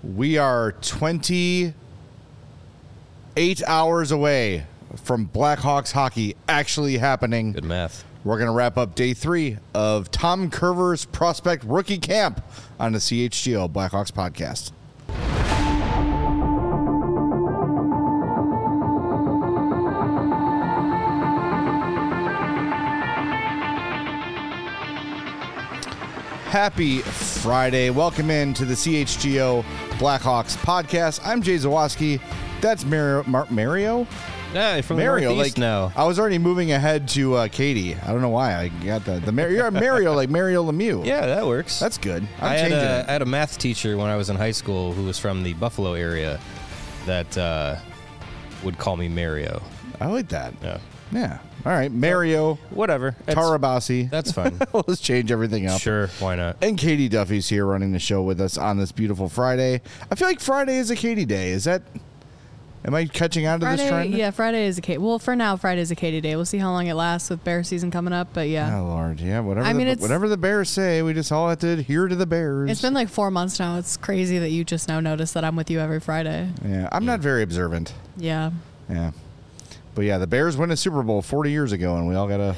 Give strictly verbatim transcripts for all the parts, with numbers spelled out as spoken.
We are twenty-eight hours away from Blackhawks hockey actually happening. Good math. We're going to wrap up day three of Tom Curver's Prospect Rookie Camp on the C H G O Blackhawks podcast. Happy Friday. Welcome in to the C H G O Blackhawks podcast. I'm Jay Zawoski. That's Mario. Mar- Mario? Yeah, from Mario, the Northeast like, now. I was already moving ahead to uh, Katie. I don't know why I got the the Mar- You're Mario, like Mario Lemieux. Yeah, that works. That's good. I'm I had, changing a, it. I had a math teacher when I was in high school who was from the Buffalo area that uh, would call me Mario. I like that. Yeah. Yeah. All right. Mario, Whatever. It's- Tarabasi. That's fine. Let's change everything up. Sure, why not? And Katie Duffy's here running the show with us on this beautiful Friday. I feel like Friday is a Katie day. Is that... Am I catching on to Friday, this trend? yeah, Friday is a Katie. Well, for now, Friday is a Katie day. We'll see how long it lasts with Bear season coming up, but yeah. Oh, Lord. Yeah, whatever, I mean, the, it's- whatever the Bears say, we just all have to adhere to the Bears. It's been like four months now. It's crazy that you just now notice that I'm with you every Friday. Yeah, I'm not very observant. Yeah. Yeah. But yeah, the Bears win a Super Bowl forty years ago, and we all got to...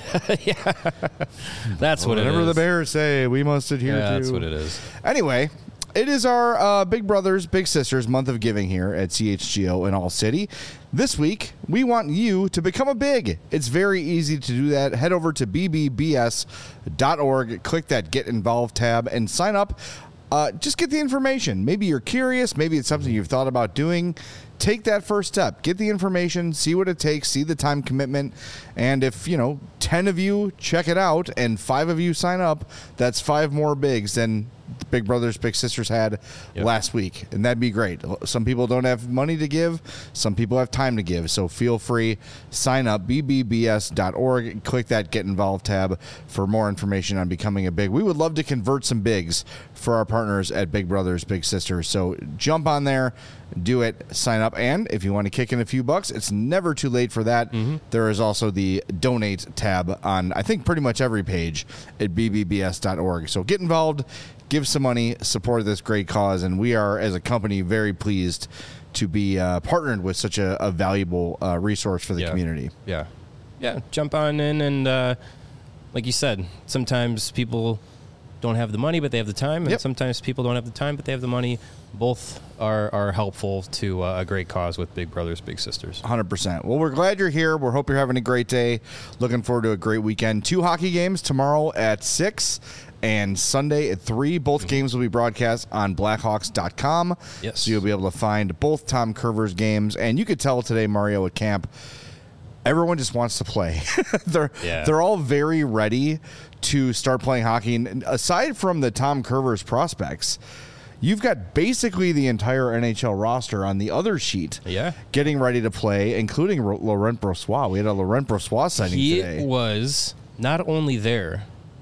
That's what it is. Whatever the Bears say, we must adhere Yeah, to. that's what it is. Anyway, it is our uh, Big Brothers, Big Sisters month of giving here at C H G O in All City. This week, we want you to become a big. It's very easy to do that. Head over to b b b s dot org, click that Get Involved tab, and sign up. Uh, just get the information. Maybe you're curious. Maybe it's something you've thought about doing. Take that first step. Get the information. See what it takes. See the time commitment. And if, you know, ten of you check it out and five of you sign up, that's five more bigs than the Big Brothers, Big Sisters had Yep. last week. And that'd be great. Some people don't have money to give. Some people have time to give. So feel free. Sign up. b b b s dot org. Click that Get Involved tab for more information on becoming a big. We would love to convert some bigs for our partners at Big Brothers, Big Sisters. So jump on there. Do it. Sign up. And if you want to kick in a few bucks, it's never too late for that. Mm-hmm. There is also the Donate tab on, I think, pretty much every page at b b b s dot org. So get involved. Give some money, support this great cause, and we are, as a company, very pleased to be uh, partnered with such a, a valuable uh, resource for the Yeah. community. Yeah. Yeah, jump on in and, uh, like you said, sometimes people don't have the money, but they have the time, and Yep. sometimes people don't have the time, but they have the money. Both are, are helpful to uh, a great cause with Big Brothers, Big Sisters. one hundred percent. Well, we're glad you're here. We hope you're having a great day. Looking forward to a great weekend. Two hockey games tomorrow at six and Sunday at three. Both mm-hmm. games will be broadcast on blackhawks dot com. Yes. So you'll be able to find both Tom Curver's games. And you could tell today, Mario, at camp, everyone just wants to play. they're Yeah. they're all very ready to start playing hockey. And aside from the Tom Curver's prospects, you've got basically the entire N H L roster on the other sheet. Yeah. Getting ready to play, including Laurent Brossoit. We had a Laurent Brossoit sighting He today. was not only there,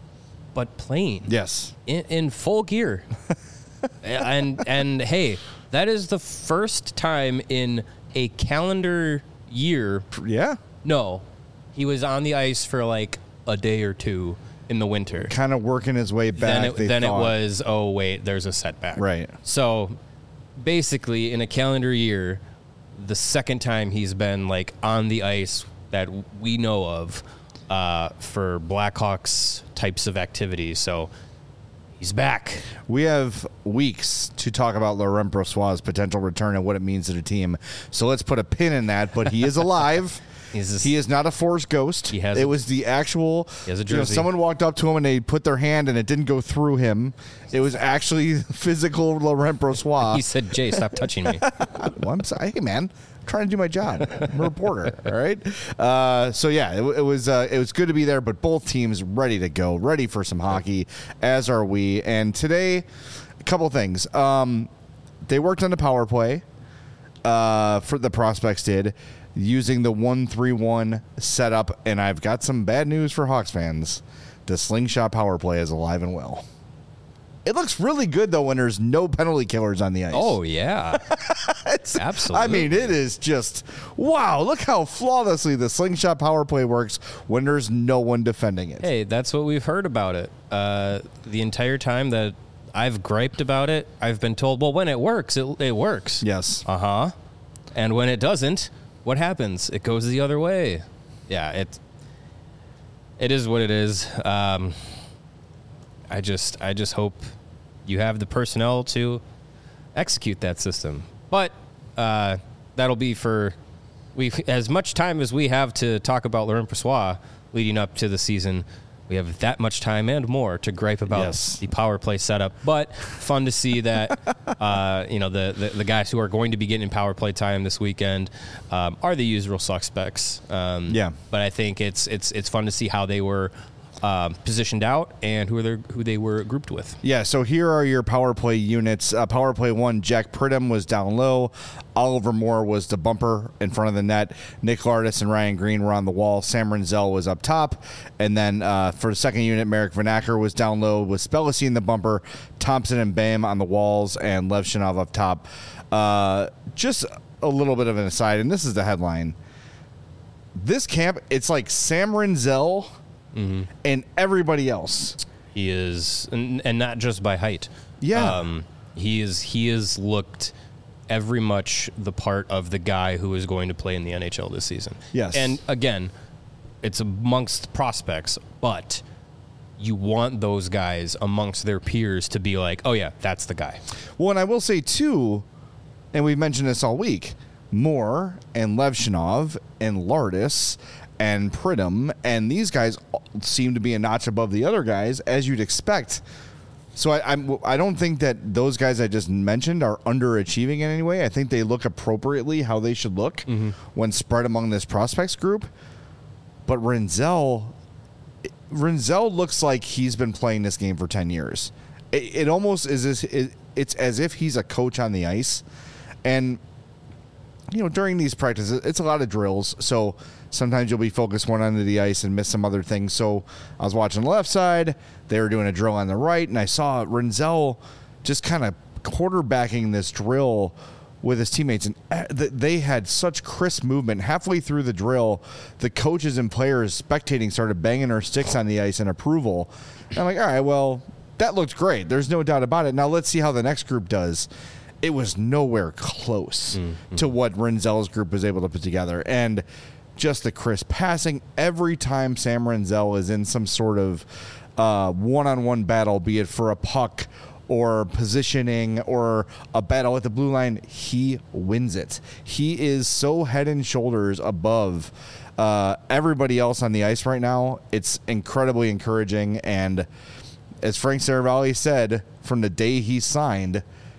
but playing. Yes. In, in full gear. and and hey, that is the first time in a calendar year. Yeah. No, he was on the ice for like a day or two in the winter. Kind of working his way back. Then it, they then it thought. was, oh, wait, there's a setback. Right. So basically, in a calendar year, the second time he's been like on the ice that we know of uh, for Blackhawks types of activities. So he's back. We have weeks to talk about Laurent Brossoit's potential return and what it means to the team. So let's put a pin in that. But he is alive. He's just, He is not a forced ghost. He has it a- was the actual. He has a you know, jersey. someone walked up to him and they put their hand and it didn't go through him. It was actually physical Laurent Brossoit. he said, Jay, stop touching me. Well, I'm sorry. Hey, man. I'm trying to do my job. I'm a reporter. All right. Uh, so yeah, it, it was uh, it was good to be there. But both teams ready to go, ready for some hockey, as are we. And today, a couple things. Um, they worked on the power play. Uh, for the prospects did, using the one three one setup. And I've got some bad news for Hawks fans. The slingshot power play is alive and well. It looks really good, though, when there's no penalty killers on the ice. Oh, yeah. It's, Absolutely. I mean, it is just, wow, look how flawlessly the slingshot power play works when there's no one defending it. Hey, that's what we've heard about it. Uh, the entire time that I've griped about it. I've been told, well, when it works, it, it works. Yes. Uh-huh. And when it doesn't, what happens? It goes the other way. Yeah, it it is what it is. Um, I just I just hope you have the personnel to execute that system. But uh, that'll be for we as much time as we have to talk about Laurent Brossoit leading up to the season. We have that much time and more to gripe about yes. the power play setup, but fun to see that uh, you know the, the the guys who are going to be getting power play time this weekend um, are the usual suspects. Um, yeah, but I think it's it's it's fun to see how they were um, positioned out and who they who they were grouped with. Yeah. So here are your power play units. Uh, power play one, Jack Pridham was down low. Oliver Moore was the bumper in front of the net. Nick Lardis and Ryan Green were on the wall. Sam Renzel was up top. And then uh, for the second unit, Marek Vanacker was down low with Spellacy in the bumper, Thompson and Bam on the walls, and Lev Shinov up top. Uh, just a little bit of an aside, and this is the headline. This camp, it's like Sam Renzel mm-hmm. and everybody else. He is, and, and not just by height. Yeah. Um, he is. He is looked every much the part of the guy who is going to play in the N H L this season. Yes. And again, it's amongst prospects, but you want those guys amongst their peers to be like, oh yeah, that's the guy. Well, and I will say too, and we've mentioned this all week, Moore and Levshinov and Lardis and Pridham, and these guys seem to be a notch above the other guys, as you'd expect. So I, I'm, I don't think that those guys I just mentioned are underachieving in any way. I think they look appropriately how they should look mm-hmm. when spread among this prospects group. But Renzel, Renzel looks like he's been playing this game for ten years. It, it almost is as, it, it's as if he's a coach on the ice. And, you know, during these practices, it's a lot of drills. So sometimes you'll be focused one end of the ice and miss some other things. So I was watching the left side. They were doing a drill on the right, and I saw Renzel just kind of quarterbacking this drill with his teammates, and they had such crisp movement. Halfway through the drill, the coaches and players spectating started banging their sticks on the ice in approval. And I'm like, all right, well, that looked great. There's no doubt about it. Now let's see how the next group does. It was nowhere close mm-hmm. to what Renzel's group was able to put together. And just the crisp passing. Every time Sam Renzel is in some sort of uh, one-on-one battle, be it for a puck or positioning or a battle at the blue line, he wins it. He is so head and shoulders above uh, everybody else on the ice right now. It's incredibly encouraging. And as Frank Saravalli said, from the day he signed,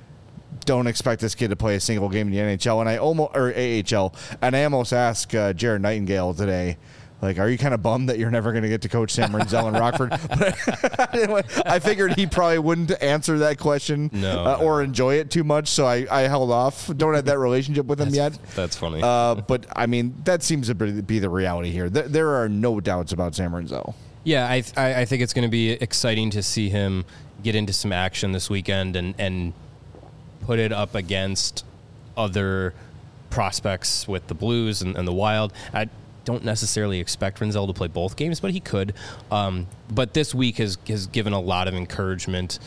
don't expect this kid to play a single game in the N H L and I almost or A H L. And I almost asked uh, Jared Nightingale today, like, are you kind of bummed that you're never going to get to coach Sam Renzel in Rockford? But anyway, I figured he probably wouldn't answer that question no, uh, no. or enjoy it too much, so I, I held off. Don't have that relationship with him that's, yet. That's funny. Uh, but I mean, that seems to be the reality here. There, there are no doubts about Sam Renzel. Yeah, I I, I think it's going to be exciting to see him get into some action this weekend and and. put it up against other prospects with the Blues and, and the Wild. I don't necessarily expect Renzel to play both games, but he could. Um, but this week has, has given a lot of encouragement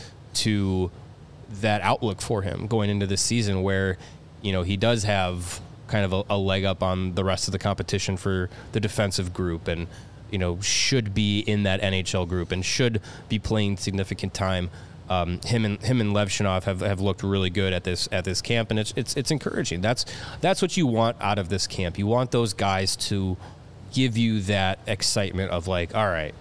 to that outlook for him going into this season where, you know, he does have kind of a, a leg up on the rest of the competition for the defensive group and, you know, should be in that N H L group and should be playing significant time. Um, him and him and Levshinov have, have looked really good at this at this camp, and it's it's it's encouraging. That's that's what you want out of this camp. You want those guys to give you that excitement of like, all right,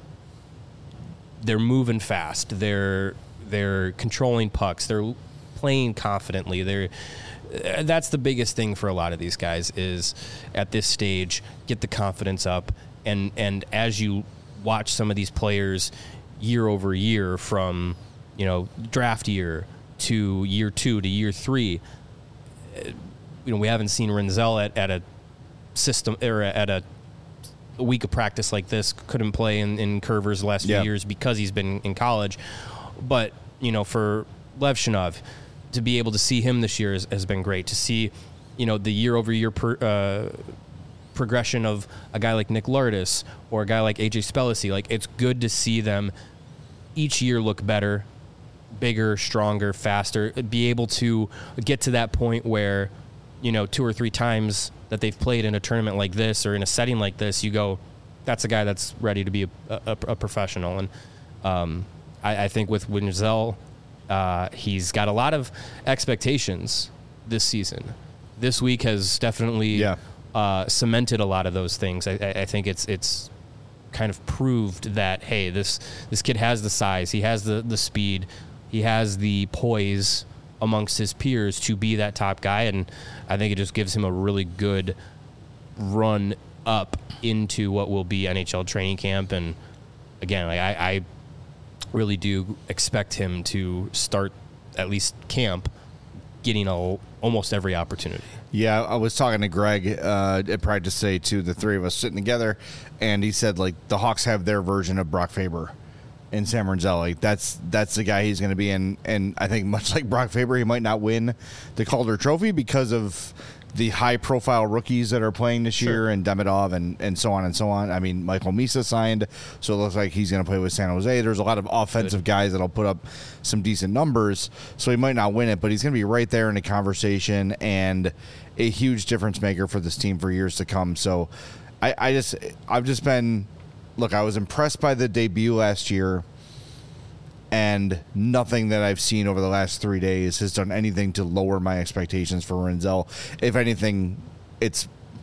they're moving fast, they're they're controlling pucks, they're playing confidently. They're that's the biggest thing for a lot of these guys is at this stage get the confidence up, and and as you watch some of these players year over year from you know, draft year to year two to year three. You know, we haven't seen Renzel at, at a system or at a, a week of practice like this. Couldn't play in, in Curvers the last few yeah. years because he's been in college. But, you know, for Levshinov, to be able to see him this year has, has been great. To see, you know, the year over year per, uh, progression of a guy like Nick Lardis or a guy like A J Spellacy. Like, it's good to see them each year look better bigger, stronger, faster, be able to get to that point where, you know, two or three times that they've played in a tournament like this or in a setting like this, you go, that's a guy that's ready to be a, a, a professional. And um, I, I think with Wendzel, uh, he's got a lot of expectations this season. This week has definitely Yeah. uh, cemented a lot of those things. I, I, I think it's it's kind of proved that, hey, this this kid has the size, he has the, the speed, he has the poise amongst his peers to be that top guy, and I think it just gives him a really good run up into what will be N H L training camp. And again, like I, I really do expect him to start at least camp getting a, almost every opportunity. Yeah, I was talking to Greg uh, at practice today, too, the three of us sitting together, and he said, like, the Hawks have their version of Brock Faber in Sam Renzel. Like, that's that's the guy he's going to be in. And I think much like Brock Faber, he might not win the Calder Trophy because of the high-profile rookies that are playing this Sure. year, and Demidov and, and so on and so on. I mean, Michael Misa signed, so it looks like he's going to play with San Jose. There's a lot of offensive Good. guys that'll put up some decent numbers, so he might not win it, but he's going to be right there in the conversation and a huge difference maker for this team for years to come. So I, I just, I've just been, look, I was impressed by the debut last year, and nothing that I've seen over the last three days has done anything to lower my expectations for Renzel. If anything, it's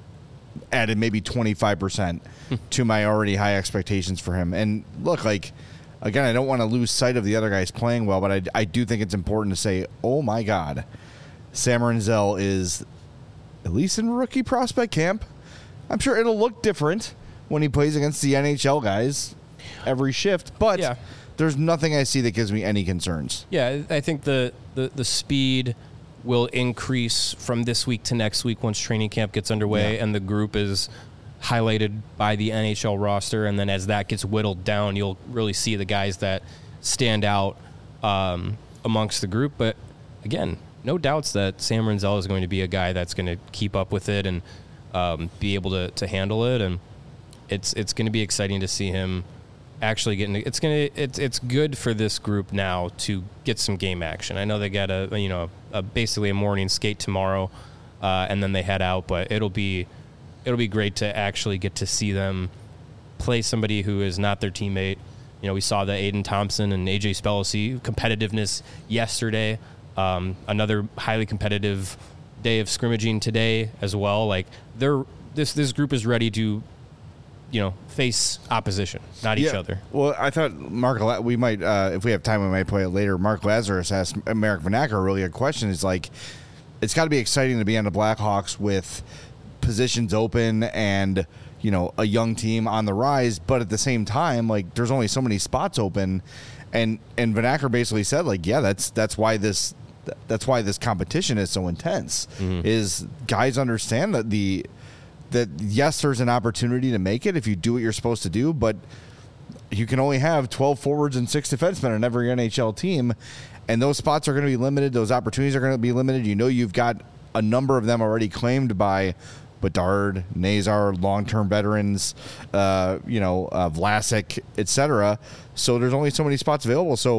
added maybe twenty-five percent to my already high expectations for him. And look, like, again, I don't want to lose sight of the other guys playing well, but I, I do think it's important to say, oh my God, Sam Renzel is, at least in rookie prospect camp, I'm sure it'll look different when he plays against the N H L guys every shift, but Yeah. there's nothing I see that gives me any concerns. Yeah, I think the, the, the speed will increase from this week to next week once training camp gets underway Yeah. and the group is highlighted by the N H L roster. And then as that gets whittled down, you'll really see the guys that stand out um, amongst the group. But again, no doubts that Sam Renzel is going to be a guy that's going to keep up with it and um, be able to, to handle it. And it's it's going to be exciting to see him actually getting. It's gonna. It's it's good for this group now to get some game action. I know they got a you know a, basically a morning skate tomorrow, uh, and then they head out. But it'll be it'll be great to actually get to see them play somebody who is not their teammate. You know, we saw the Aiden Thompson and A J Spellacy competitiveness yesterday. Um, another highly competitive day of scrimmaging today as well. Like they're this this group is ready to, you know, face opposition, not each Yeah. other. Well, I thought Mark, La- we might, uh, if we have time, we might play it later. Mark Lazarus asked Marek Vanacker a really good question. It's like, it's got to be exciting to be on the Blackhawks with positions open and, you know, a young team on the rise, but at the same time, like, there's only so many spots open. And, and Vanacker basically said, like, yeah, that's, that's why this, that's why this competition is so intense, is guys understand that the, that yes, there's an opportunity to make it if you do what you're supposed to do, but you can only have twelve forwards and six defensemen on every N H L team, and those spots are going to be limited. Those opportunities are going to be limited. You know, you've got a number of them already claimed by Bedard, Nazar, long-term veterans, uh, you know, uh, Vlasic, et cetera. So there's only so many spots available. So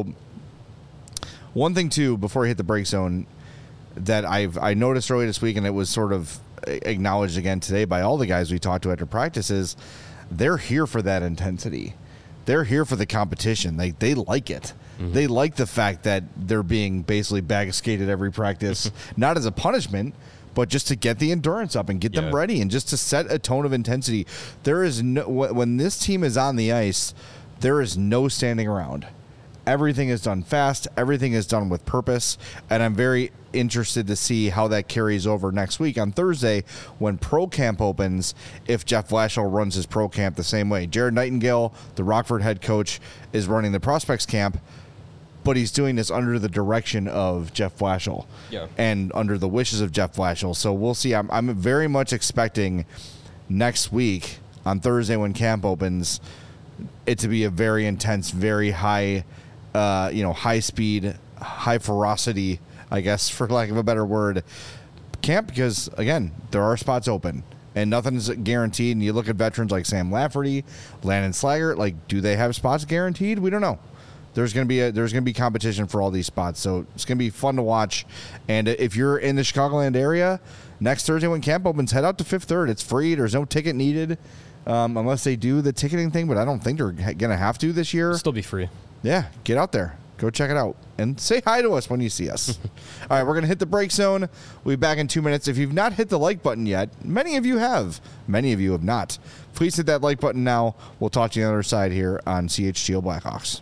one thing, too, before I hit the break zone, that I've I noticed earlier this week, and it was sort of acknowledged again today by all the guys we talked to after practice, is they're here for that intensity. They're here for the competition. They they like it. Mm-hmm. They like the fact that they're being basically bag skated every practice, not as a punishment, but just to get the endurance up and get Yeah. them ready and just to set a tone of intensity. There is no, when this team is on the ice, there is no standing around. Everything is done fast. Everything is done with purpose. And I'm very interested to see how that carries over next week on Thursday when Pro Camp opens, if Jeff Blashill runs his Pro Camp the same way. Jared Nightingale, the Rockford head coach, is running the Prospects Camp, but he's doing this under the direction of Jeff Blashill Yeah. and under the wishes of Jeff Blashill. So we'll see. I'm, I'm very much expecting next week on Thursday when camp opens it to be a very intense, very high Uh, you know, high speed, high ferocity, I guess, for lack of a better word, camp, because, again, there are spots open and nothing's guaranteed. And you look at veterans like Sam Lafferty, Landon Slaggert, like, do they have spots guaranteed? We don't know. there's going to be a, there's going to be competition for all these spots. So it's going to be fun to watch. And if you're in the Chicagoland area, next Thursday when camp opens, head out to Fifth Third. It's free. There's no ticket needed um, unless they do the ticketing thing, but I don't think they're going to have to this year. It'll still be free. Yeah, get out there. Go check it out. And say hi to us when you see us. All right, we're going to hit the break zone. We'll be back in two minutes. If you've not hit the like button yet, many of you have. Many of you have not. Please hit that like button now. We'll talk to you on the other side here on C H G O Blackhawks.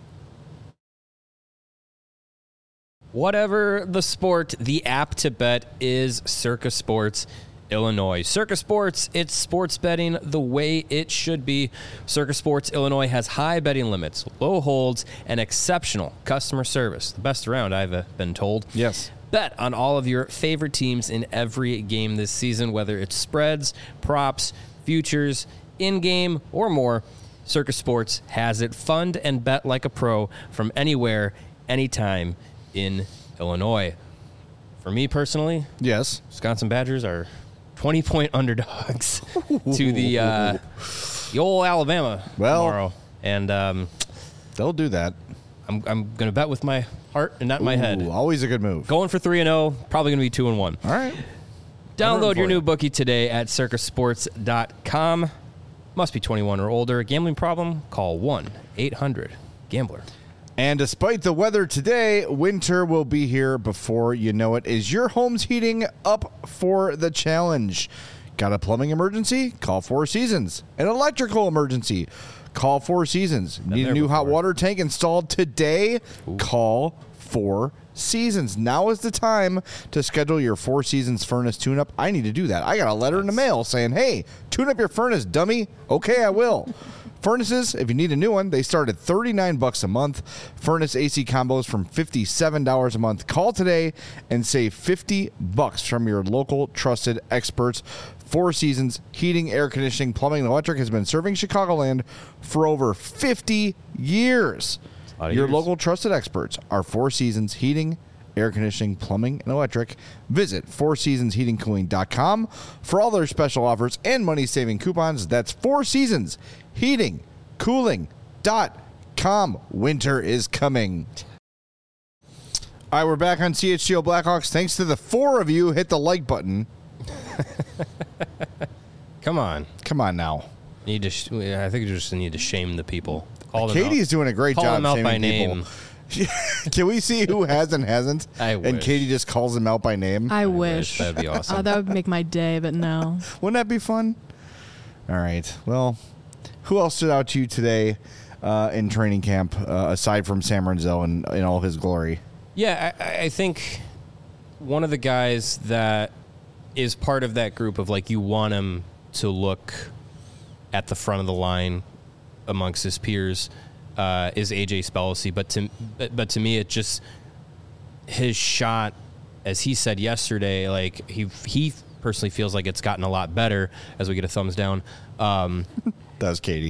Whatever the sport, the app to bet is Circa Sports Illinois. Circa Sports, it's sports betting the way it should be. Circa Sports Illinois has high betting limits, low holds, and exceptional customer service. The best around, I've uh, been told. Yes. Bet on all of your favorite teams in every game this season, whether it's spreads, props, futures, in-game, or more. Circa Sports has it. Fund and bet like a pro from anywhere, anytime in Illinois. For me personally, yes, Wisconsin Badgers are twenty-point underdogs to the uh, the old Alabama well, tomorrow, and um, they'll do that. I'm I'm going to bet with my heart and not Ooh, my head. Always a good move. Going for three and zero, probably going to be two and one. All right. Download your you. new bookie today at circa sports dot com. Must be twenty-one or older. Gambling problem? Call one eight hundred gambler. And despite the weather today, winter will be here before you know it. Is your home's heating up for the challenge? Got a plumbing emergency? Call Four Seasons. An electrical emergency? Call Four Seasons. Been Need a there new before. hot water tank installed today? Ooh. Call Four Seasons. Now is the time to schedule your Four Seasons furnace tune-up. I need to do that. I got a letter in the mail saying, hey, tune up your furnace, dummy. Okay, I will. Furnaces, if you need a new one, they start at thirty-nine bucks a month. Furnace A C combos from fifty-seven dollars a month. Call today and save fifty bucks from your local trusted experts. Four Seasons Heating, Air Conditioning, Plumbing, and Electric has been serving Chicagoland for over fifty years. A lot of Your years. local trusted experts are Four Seasons Heating, Air Conditioning, Plumbing, and Electric. Visit four seasons heating cooling dot com for all their special offers and money-saving coupons. That's Four Seasons Heating Cooling dot com. Winter is coming. All right, we're back on C H G O Blackhawks. Thanks to the four of you, hit the like button. Come on. Come on now. Need to. Sh- I think you just need to shame the people. Call them Katie's out. doing a great Call job them out shaming by people. name. Can we see who has and hasn't? I And wish. Katie just calls them out by name. I, wish. wish. That'd be awesome. Oh, that would make my day, but no. Wouldn't that be fun? All right. Well, who else stood out to you today uh, in training camp, uh, aside from Sam Renzel in, in all his glory? Yeah, I, I think one of the guys that is part of that group of, like, you want him to look at the front of the line amongst his peers uh, is A J Spellacy. But to, but, but to me, it just, his shot, as he said yesterday, like, he he personally feels like it's gotten a lot better as we get a thumbs down. Um, That was Katie.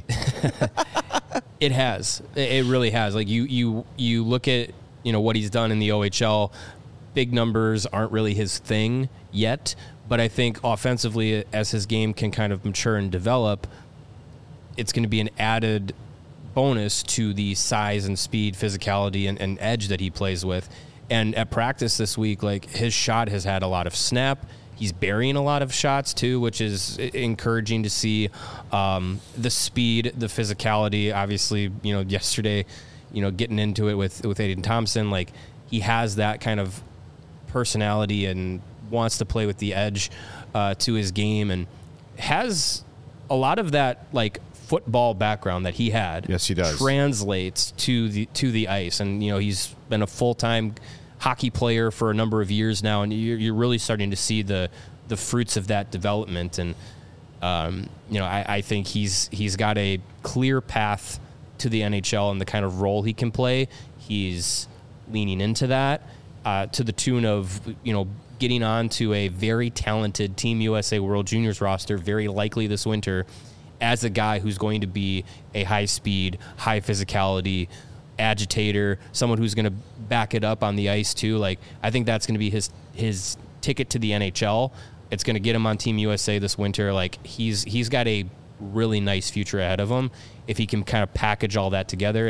It has. It it really has. Like, you you you look at, you know, what he's done in the O H L. Big numbers aren't really his thing yet, but I think offensively, as his game can kind of mature and develop, it's going to be an added bonus to the size and speed, physicality, and, and edge that he plays with. And at practice this week, like, his shot has had a lot of snap. He's burying a lot of shots too, which is encouraging to see. Um, the speed, the physicality, obviously, you know, yesterday, you know, getting into it with, with Aiden Thompson, like, he has that kind of personality and wants to play with the edge uh, to his game, and has a lot of that, like, football background that he had. Yes, he does. Translates to the to the ice, and you know, he's been a full time hockey player for a number of years now, and you're, you're really starting to see the the fruits of that development. And um, you know, I, I think he's he's got a clear path to the N H L and the kind of role he can play. He's leaning into that uh, to the tune of, you know, getting on to a very talented Team U S A World Juniors roster, very likely this winter, as a guy who's going to be a high-speed, high physicality agitator, someone who's going to back it up on the ice too. Like, I think that's going to be his his ticket to the N H L. It's going to get him on Team U S A this winter. Like, he's he's got a really nice future ahead of him if he can kind of package all that together. And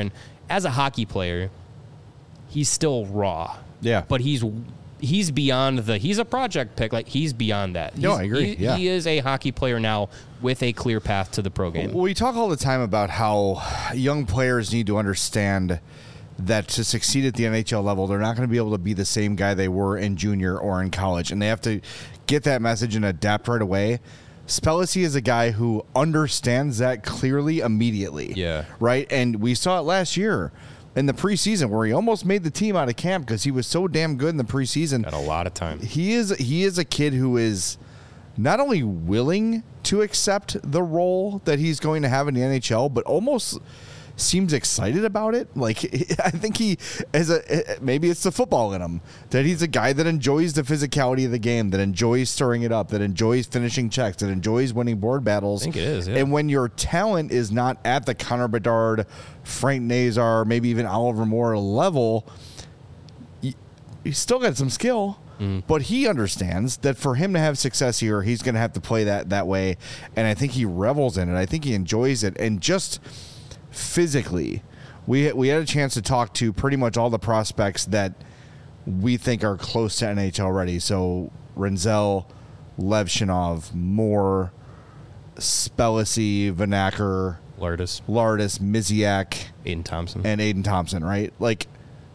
as a hockey player, he's still raw. Yeah. But he's he's beyond the he's a project pick. Like he's beyond that. No, He's- I agree. He, Yeah. he is a hockey player now with a clear path to the pro game. We talk all the time about how young players need to understand that to succeed at the N H L level, they're not going to be able to be the same guy they were in junior or in college, and they have to get that message and adapt right away. Spellacy is a guy who understands that clearly immediately. Yeah. Right? And we saw it last year in the preseason where he almost made the team out of camp because he was so damn good in the preseason. Got a lot of time. He is he is a kid who is not only willing to accept the role that he's going to have in the N H L, but almost seems excited about it. Like, I think he, as a maybe it's the football in him, that he's a guy that enjoys the physicality of the game, that enjoys stirring it up, that enjoys finishing checks, that enjoys winning board battles. I think it is, yeah. And when your talent is not at the Connor Bedard, Frank Nazar, maybe even Oliver Moore level, you, he's still got some skill. Mm. But he understands that for him to have success here, he's going to have to play that that way. And I think he revels in it. I think he enjoys it. And just physically, we we had a chance to talk to pretty much all the prospects that we think are close to N H L ready. So Renzel, Levshinov, Moore, Spellacy, Vanacker, Lardis, Lardis, Miziak, Aiden Thompson. and Aiden Thompson, right? Like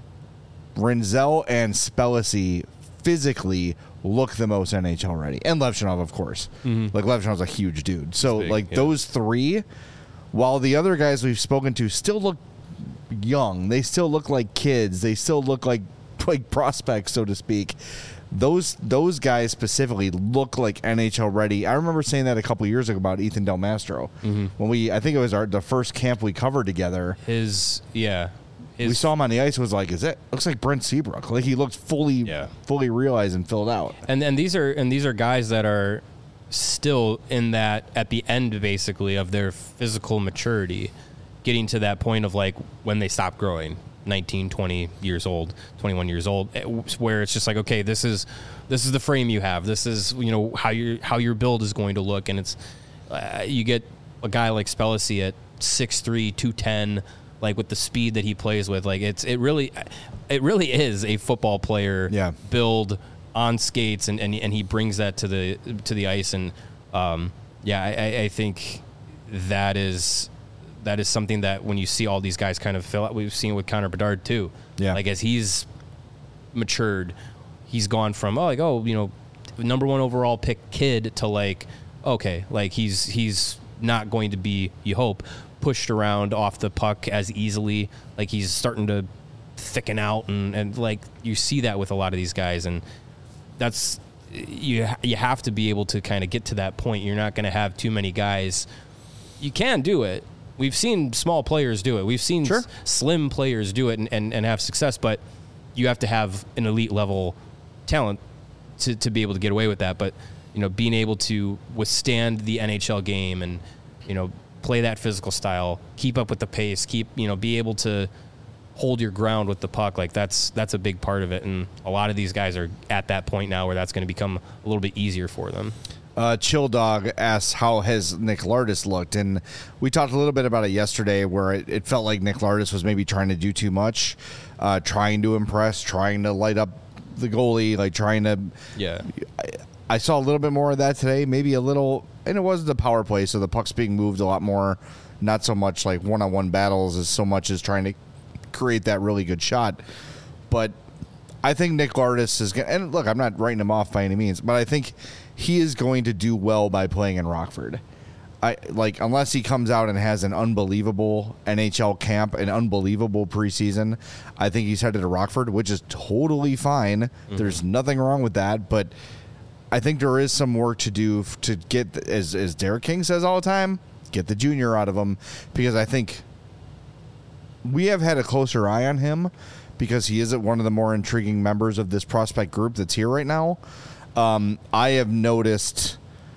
Renzel and Spellacy physically look the most N H L ready. And Levshinov, of course. Mm-hmm. Like Levshinov's a huge dude. So big, like yeah. those three, while the other guys we've spoken to still look young, they still look like kids, they still look like like prospects, so to speak. Those those guys specifically look like N H L ready. I remember saying that a couple years ago about Ethan Del Mastro. Mm-hmm. When we I think it was our the first camp we covered together. His, yeah. His, We saw him on the ice. Was like, is it looks like Brent Seabrook? Like he looked fully, Yeah. fully realized and filled out. And and these are and these are guys that are still in that at the end basically of their physical maturity, getting to that point of like when they stop growing, nineteen, twenty years old, twenty-one years old, where it's just like, okay, this is this is the frame you have. This is, you know, how your how your build is going to look, and it's uh, you get a guy like Spellacy at six three, two ten, like with the speed that he plays with, like it's it really it really is a football player Yeah. build on skates, and, and and he brings that to the to the ice, and um, yeah, I, I think that is that is something that when you see all these guys kind of fill out, we've seen with Connor Bedard too. Yeah. Like as he's matured, he's gone from oh like oh you know number one overall pick kid to like okay like he's he's not going to be, you hope, pushed around off the puck as easily. Like he's starting to thicken out, and, and like you see that with a lot of these guys, and that's you you have to be able to kind of get to that point. You're not going to have too many guys. You can do it. We've seen small players do it. We've seen Sure. s- slim players do it and, and, and have success, but you have to have an elite level talent to, to be able to get away with that. But, you know, being able to withstand the N H L game and, you know, play that physical style, keep up with the pace, keep, you know, be able to hold your ground with the puck, like that's that's a big part of it. And a lot of these guys are at that point now where that's going to become a little bit easier for them. Uh, Chill Dog asks, how has Nick Lardis looked? And we talked a little bit about it yesterday where it, it felt like Nick Lardis was maybe trying to do too much, uh, trying to impress, trying to light up the goalie, like trying to... Yeah. I, I saw a little bit more of that today, maybe a little... And it was the power play, so the puck's being moved a lot more. Not so much like one-on-one battles as so much as trying to create that really good shot. But I think Nick Lardis is going to... And look, I'm not writing him off by any means, but I think he is going to do well by playing in Rockford. I like unless he comes out and has an unbelievable N H L camp, an unbelievable preseason. I think he's headed to Rockford, which is totally fine. Mm-hmm. There's nothing wrong with that, but I think there is some work to do to get, as as Derek King says all the time, get the junior out of him, because I think we have had a closer eye on him because he is one of the more intriguing members of this prospect group that's here right now. Um, I have noticed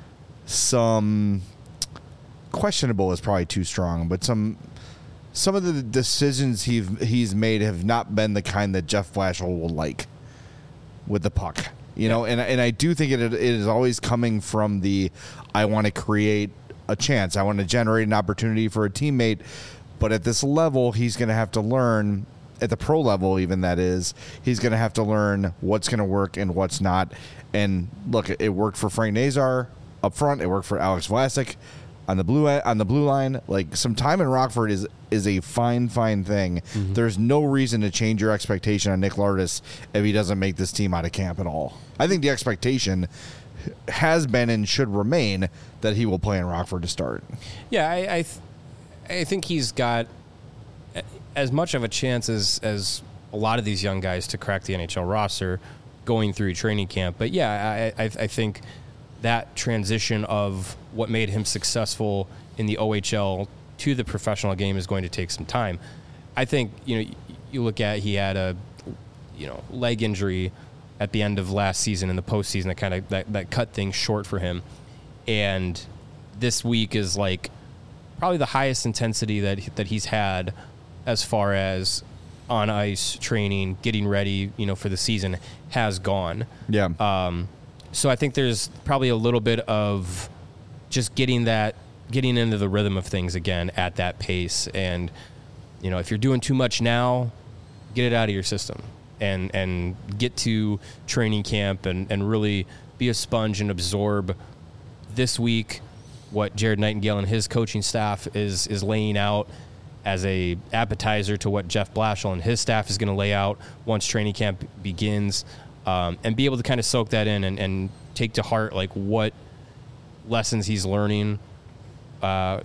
some questionable is probably too strong, but some some of the decisions he's he's made have not been the kind that Jeff Blashill will like with the puck, you know. And and I do think it it is always coming from the I want to create a chance, I want to generate an opportunity for a teammate. But at this level, he's going to have to learn, at the pro level even that is, he's going to have to learn what's going to work and what's not. And look, it worked for Frank Nazar up front. It worked for Alex Vlasic on the blue on the blue line. Like, some time in Rockford is is a fine, fine thing. Mm-hmm. There's no reason to change your expectation on Nick Lardis if he doesn't make this team out of camp at all. I think the expectation has been and should remain that he will play in Rockford to start. Yeah, I I, th- I think he's got as much of a chance as, as a lot of these young guys to crack the N H L roster going through training camp. But yeah, I I, I think that transition of what made him successful in the O H L to the professional game is going to take some time. I think, you know, you look at, he had a, you know, leg injury at the end of last season in the postseason that kind of that, that cut things short for him. And this week is like probably the highest intensity that that he's had as far as on ice training, getting ready, you know, for the season has gone. Yeah. Um, so I think there's probably a little bit of just getting that, getting into the rhythm of things again at that pace. And, you know, if you're doing too much now, get it out of your system and, and get to training camp and, and really be a sponge and absorb this week what Jared Nightingale and his coaching staff is, is laying out as a appetizer to what Jeff Blashill and his staff is going to lay out once training camp begins, um, and be able to kind of soak that in and, and take to heart like what lessons he's learning uh,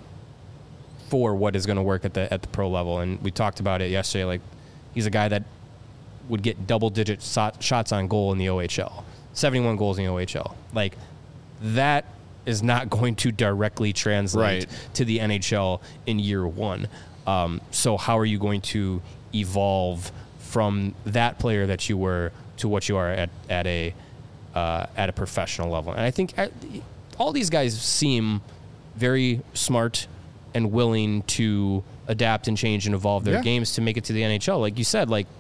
for what is going to work at the at the pro level. And we talked about it yesterday. Like, he's a guy that would get double digit so- shots on goal in the O H L, seventy-one goals in the O H L. Like, that is not going to directly translate right. to the N H L in year one. Um, so how are you going to evolve from that player that you were to what you are at, at a uh, at a professional level? And I think I, all these guys seem very smart and willing to adapt and change and evolve their yeah. games to make it to the N H L. Like you said, like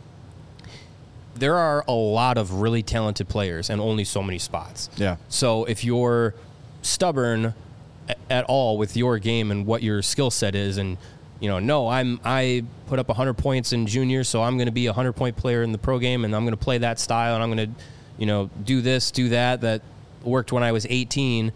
there are a lot of really talented players and only so many spots. Yeah. So if you're stubborn at all with your game and what your skill set is, and you know, no, I'm I put up one hundred points in junior, so I'm going to be a one hundred point player in the pro game, and I'm going to play that style, and I'm going to, you know, do this, do that that worked when I was eighteen.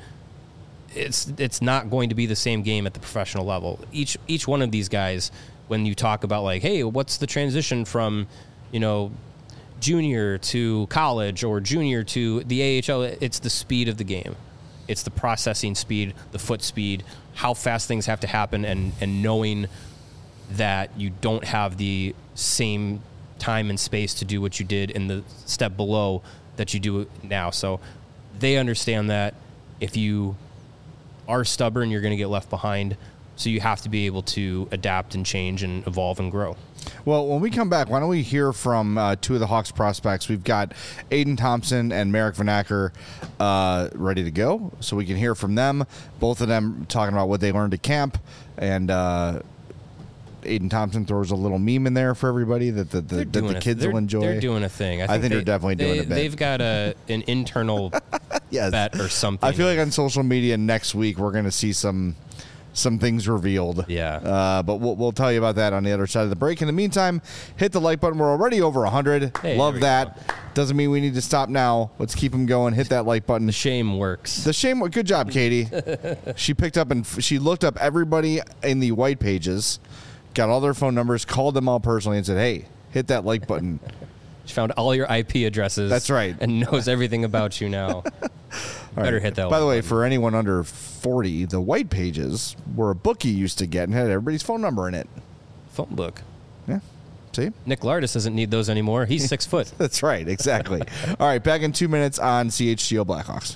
It's it's not going to be the same game at the professional level. Each each one of these guys, when you talk about like, hey, what's the transition from, you know, junior to college or junior to the A H L, it's the speed of the game. It's the processing speed, the foot speed, how fast things have to happen, and, and knowing that you don't have the same time and space to do what you did in the step below that you do now. So they understand that if you are stubborn, you're going to get left behind. So you have to be able to adapt and change and evolve and grow. Well, when we come back, why don't we hear from uh, two of the Hawks prospects? We've got Aiden Thompson and Merrick Van Acker uh, ready to go, so we can hear from them. Both of them talking about what they learned at camp, and uh, Aiden Thompson throws a little meme in there for everybody that the, the, that the kids th- will enjoy. They're doing a thing. I think, I think they, they're definitely doing they, a bit. They've got a an internal yes. bet or something. I feel like on social media next week we're going to see some some things revealed. Yeah. Uh, but we'll, we'll tell you about that on the other side of the break. In the meantime, hit the like button. We're already over one hundred. Hey, Love that. Go. Doesn't mean we need to stop now. Let's keep them going. Hit that like button. The shame works. The shame. Good job, Katie. She picked up and f- she looked up everybody in the white pages, got all their phone numbers, called them all personally, and said, hey, hit that like button. She found all your I P addresses. That's right. And knows everything about you now. Better right. hit that. By the way, button. for anyone under forty, the white pages were a book you used to get and had everybody's phone number in it. Phone book. Yeah. See? Nick Lardis doesn't need those anymore. He's six foot. That's right. Exactly. All right. Back in two minutes on C H G O Blackhawks.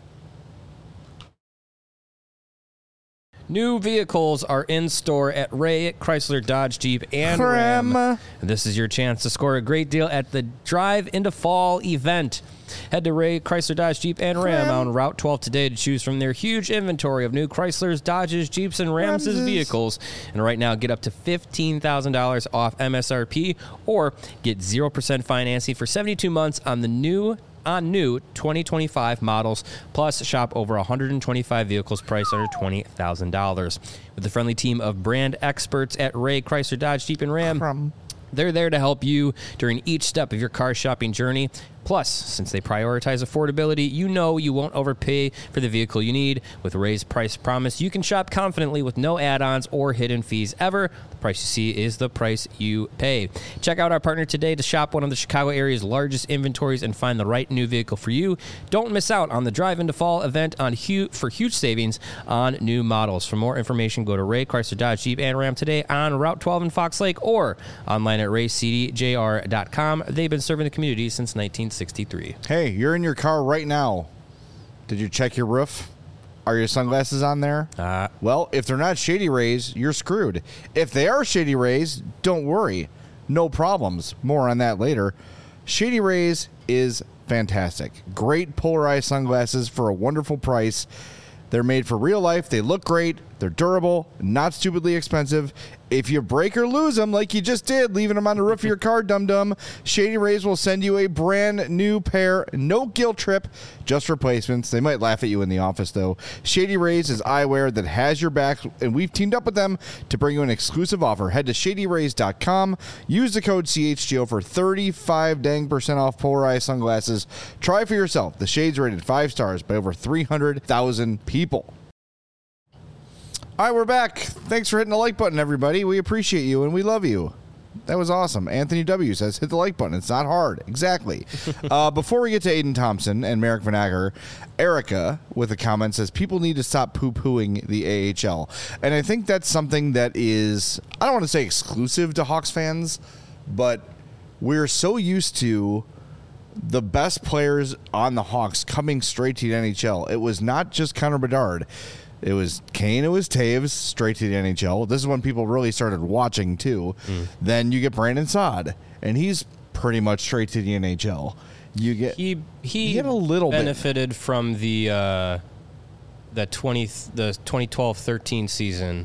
New vehicles are in store at Ray Chrysler Dodge Jeep and Ram. Ram. And this is your chance to score a great deal at the Drive into Fall event. Head to Ray Chrysler Dodge Jeep and Ram, Ram. on Route twelve today to choose from their huge inventory of new Chrysler's, Dodges, Jeeps, and Rams' Ramses. vehicles. And right now, get up to fifteen thousand dollars off M S R P or get zero percent financing for seventy-two months on the new on new twenty twenty-five models. Plus, shop over one hundred twenty-five vehicles priced under twenty thousand dollars. With the friendly team of brand experts at Ray Chrysler Dodge Jeep and Ram, Crum. they're there to help you during each step of your car shopping journey. Plus, since they prioritize affordability, you know you won't overpay for the vehicle you need. With Ray's Price Promise, you can shop confidently with no add-ons or hidden fees ever. The price you see is the price you pay. Check out our partner today to shop one of the Chicago area's largest inventories and find the right new vehicle for you. Don't miss out on the Drive Into Fall event on hu- for huge savings on new models. For more information, go to Ray Chrysler Dodge Jeep and Ram today on Route twelve in Fox Lake or online at ray c d j r dot com. They've been serving the community since nineteen sixty-three. Hey, you're in your car right now. Did you check your roof? Are your sunglasses on there? Uh, Well, if they're not Shady Rays, you're screwed. If they are Shady Rays, don't worry. No problems. More on that later. Shady Rays is fantastic. Great polarized sunglasses for a wonderful price. They're made for real life. They look great. They're durable, not stupidly expensive. If you break or lose them like you just did, leaving them on the roof of your car, dum-dum, Shady Rays will send you a brand new pair. No guilt trip, just replacements. They might laugh at you in the office, though. Shady Rays is eyewear that has your back, and we've teamed up with them to bring you an exclusive offer. Head to shady rays dot com. Use the code C H G O for thirty-five dang percent off polarized sunglasses. Try for yourself. The Shades rated five stars by over three hundred thousand people. All right, we're back. Thanks for hitting the like button, everybody. We appreciate you, and we love you. That was awesome. Anthony W. says, hit the like button. It's not hard. Exactly. uh, before we get to Aiden Thompson and Merrick Van Acker, Erica, with a comment, says, people need to stop poo-pooing the A H L. And I think that's something that is, I don't want to say exclusive to Hawks fans, but we're so used to the best players on the Hawks coming straight to the N H L. It was not just Connor Bedard. It was Kane, it was Taves, straight to the N H L. This is when people really started watching, too. Mm. Then you get Brandon Saad, and he's pretty much straight to the N H L. You get he he get a little benefited bit. from the uh, the twenty the twenty twelve thirteen season,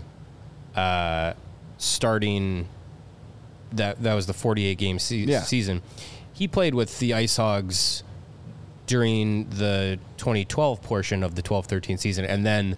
uh, starting that that was the forty-eight game se- yeah. season. He played with the Ice Hogs during the twenty twelve portion of the twelve thirteen season, and then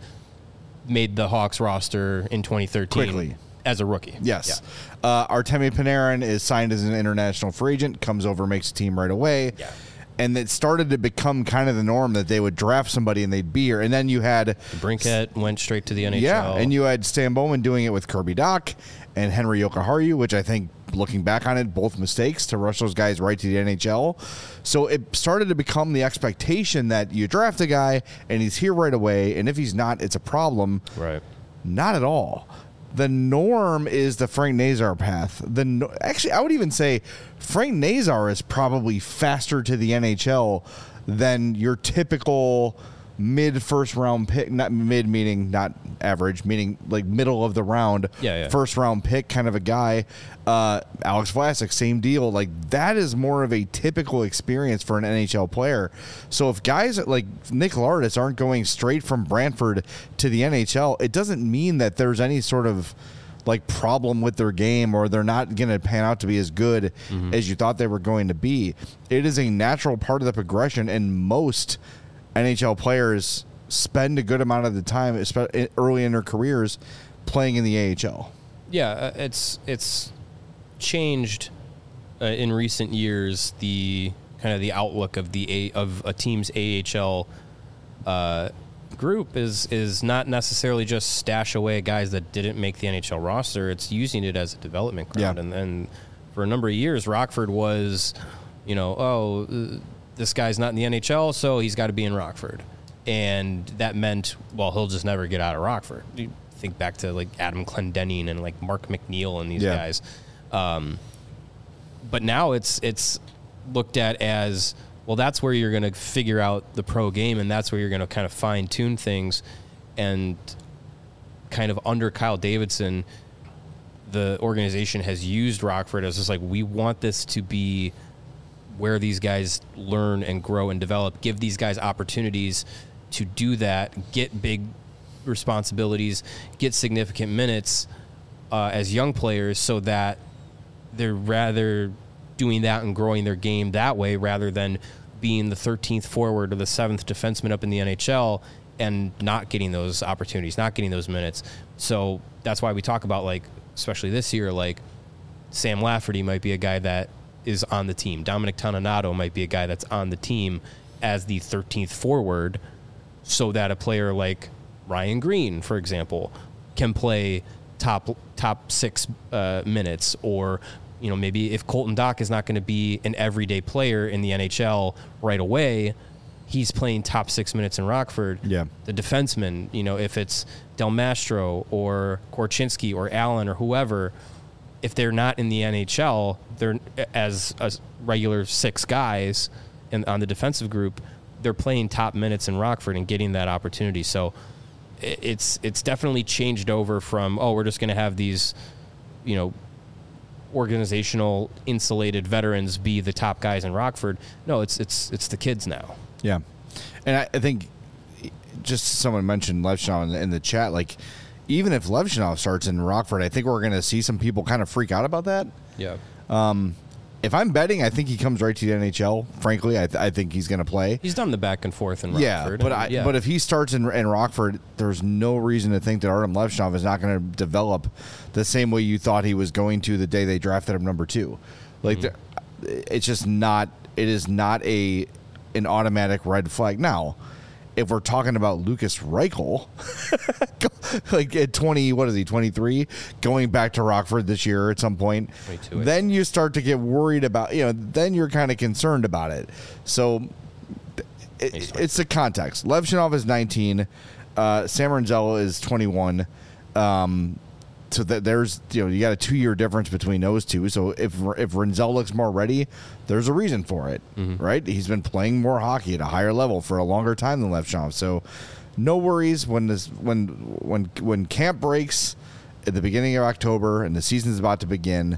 made the Hawks roster in twenty thirteen quickly as a rookie. Yes. Yeah. Uh, Artemi Panarin is signed as an international free agent, comes over, makes a team right away. Yeah. And it started to become kind of the norm that they would draft somebody and they'd be here. And then you had Brinkett went straight to the N H L. Yeah, and you had Stan Bowman doing it with Kirby Dach and Henry Jokiharju, which I think, looking back on it, both mistakes to rush those guys right to the N H L. So it started to become the expectation that you draft a guy and he's here right away, and if he's not, it's a problem. Right. Not at all. The norm is the Frank Nazar path. The no- Actually, I would even say Frank Nazar is probably faster to the N H L than your typical mid first round pick, not mid meaning not average, meaning like middle of the round, yeah, yeah. first round pick kind of a guy. Uh, Alex Vlasic, same deal. Like that is more of a typical experience for an N H L player. So if guys like Nick Lardis aren't going straight from Brantford to the N H L, it doesn't mean that there's any sort of like problem with their game or they're not going to pan out to be as good mm-hmm. as you thought they were going to be. It is a natural part of the progression, and most N H L players spend a good amount of the time, especially early in their careers, playing in the A H L. Yeah, uh, it's it's changed uh, in recent years. The kind of the outlook of the a, of a team's A H L uh, group is is not necessarily just stash away guys that didn't make the N H L roster. It's using it as a development ground, yeah. and and for a number of years, Rockford was, you know, oh. Uh, this guy's not in the N H L, so he's got to be in Rockford. And that meant, well, he'll just never get out of Rockford. You think back to, like, Adam Clendenning and, like, Mark McNeil and these yeah. guys. Um, but now it's it's looked at as, well, that's where you're going to figure out the pro game, and that's where you're going to kind of fine-tune things. And kind of under Kyle Davidson, the organization has used Rockford as just like, we want this to be where these guys learn and grow and develop, give these guys opportunities to do that, get big responsibilities, get significant minutes uh, as young players so that they're rather doing that and growing their game that way rather than being the thirteenth forward or the seventh defenseman up in the N H L and not getting those opportunities, not getting those minutes. So that's why we talk about, like, especially this year, like Sam Lafferty might be a guy that is on the team. Dominic Toninato might be a guy that's on the team as the thirteenth forward, so that a player like Ryan Green, for example, can play top top six uh, minutes, or you know, maybe if Colton Dock is not going to be an everyday player in the N H L right away, he's playing top six minutes in Rockford. Yeah. The defenseman, you know, if it's Del Mastro or Korchinski or Allen or whoever, if they're not in the N H L, they're as a regular six guys in, on the defensive group, they're playing top minutes in Rockford and getting that opportunity. So it's it's definitely changed over from, oh, we're just going to have these, you know, organizational insulated veterans be the top guys in Rockford. No, it's it's it's the kids now. Yeah. And I, I think just someone mentioned Levshunov in the, in the chat, like, even if Levshunov starts in Rockford, I think we're going to see some people kind of freak out about that. Yeah. Um, if I'm betting, I think he comes right to the N H L. Frankly, I, th- I think he's going to play. He's done the back and forth in yeah, Rockford. but I I, mean, yeah. but if he starts in, in Rockford, there's no reason to think that Artem Levshunov is not going to develop the same way you thought he was going to the day they drafted him number two. Like, mm-hmm. It's just not. It is not a an automatic red flag. Now, if we're talking about Lucas Reichel, like at twenty, what is he, twenty-three, going back to Rockford this year at some point, then you start to get worried about, you know, then you're kind of concerned about it. So it, it's the context. Levshunov is nineteen. Uh, Sam Rinzel is twenty-one. Um, so that there's, you know, you got a two-year difference between those two. So if if Rinzel looks more ready, there's a reason for it, mm-hmm. right? He's been playing more hockey at a higher level for a longer time than Levshunov. So no worries when this when when when camp breaks at the beginning of October and the season's about to begin.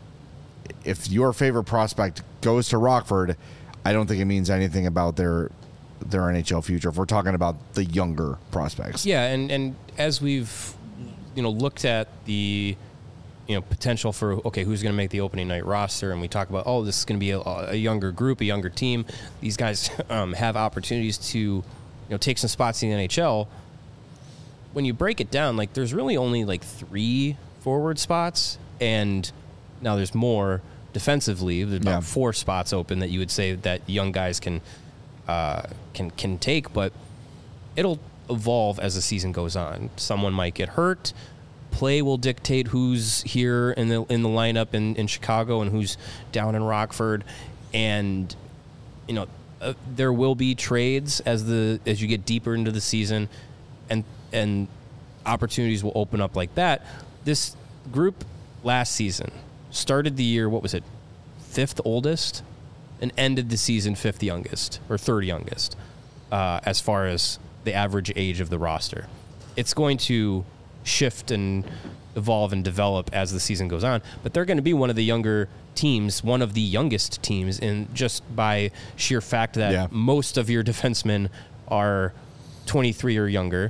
If your favorite prospect goes to Rockford, I don't think it means anything about their their N H L future. If we're talking about the younger prospects, yeah, and and as we've you know looked at the you know potential for, okay, who's going to make the opening night roster, and we talk about, oh, this is going to be a, a younger group, a younger team. These guys um, have opportunities to you know take some spots in the N H L. When you break it down, like, there's really only like three forward spots, and now there's more defensively. There's about yeah. four spots open that you would say that young guys can uh, can can take, but it'll evolve as the season goes on. Someone might get hurt. Play will dictate who's here in the in the lineup in, in Chicago and who's down in Rockford, and you know uh, there will be trades as the as you get deeper into the season, and and opportunities will open up like that. This group last season started the year, what was it, fifth oldest, and ended the season fifth youngest or third youngest uh, as far as the average age of the roster. It's going to shift and evolve and develop as the season goes on, but they're going to be one of the younger teams, one of the youngest teams, in just by sheer fact that yeah. most of your defensemen are twenty-three or younger,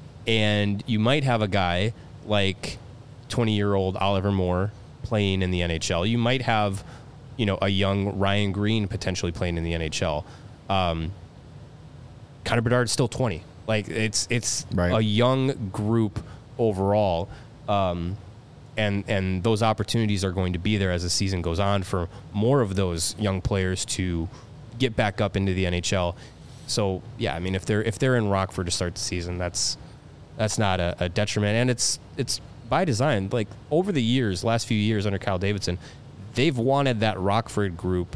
and you might have a guy like twenty-year-old Oliver Moore playing in the N H L. You might have, you know, a young Ryan Green potentially playing in the N H L. Um, Connor Bedard's still twenty. Like, it's it's right. a young group overall, um, and and those opportunities are going to be there as the season goes on for more of those young players to get back up into the N H L. So yeah, I mean, if they're if they're in Rockford to start the season, that's that's not a, a detriment, and it's it's by design. Like, over the years, last few years under Kyle Davidson, they've wanted that Rockford group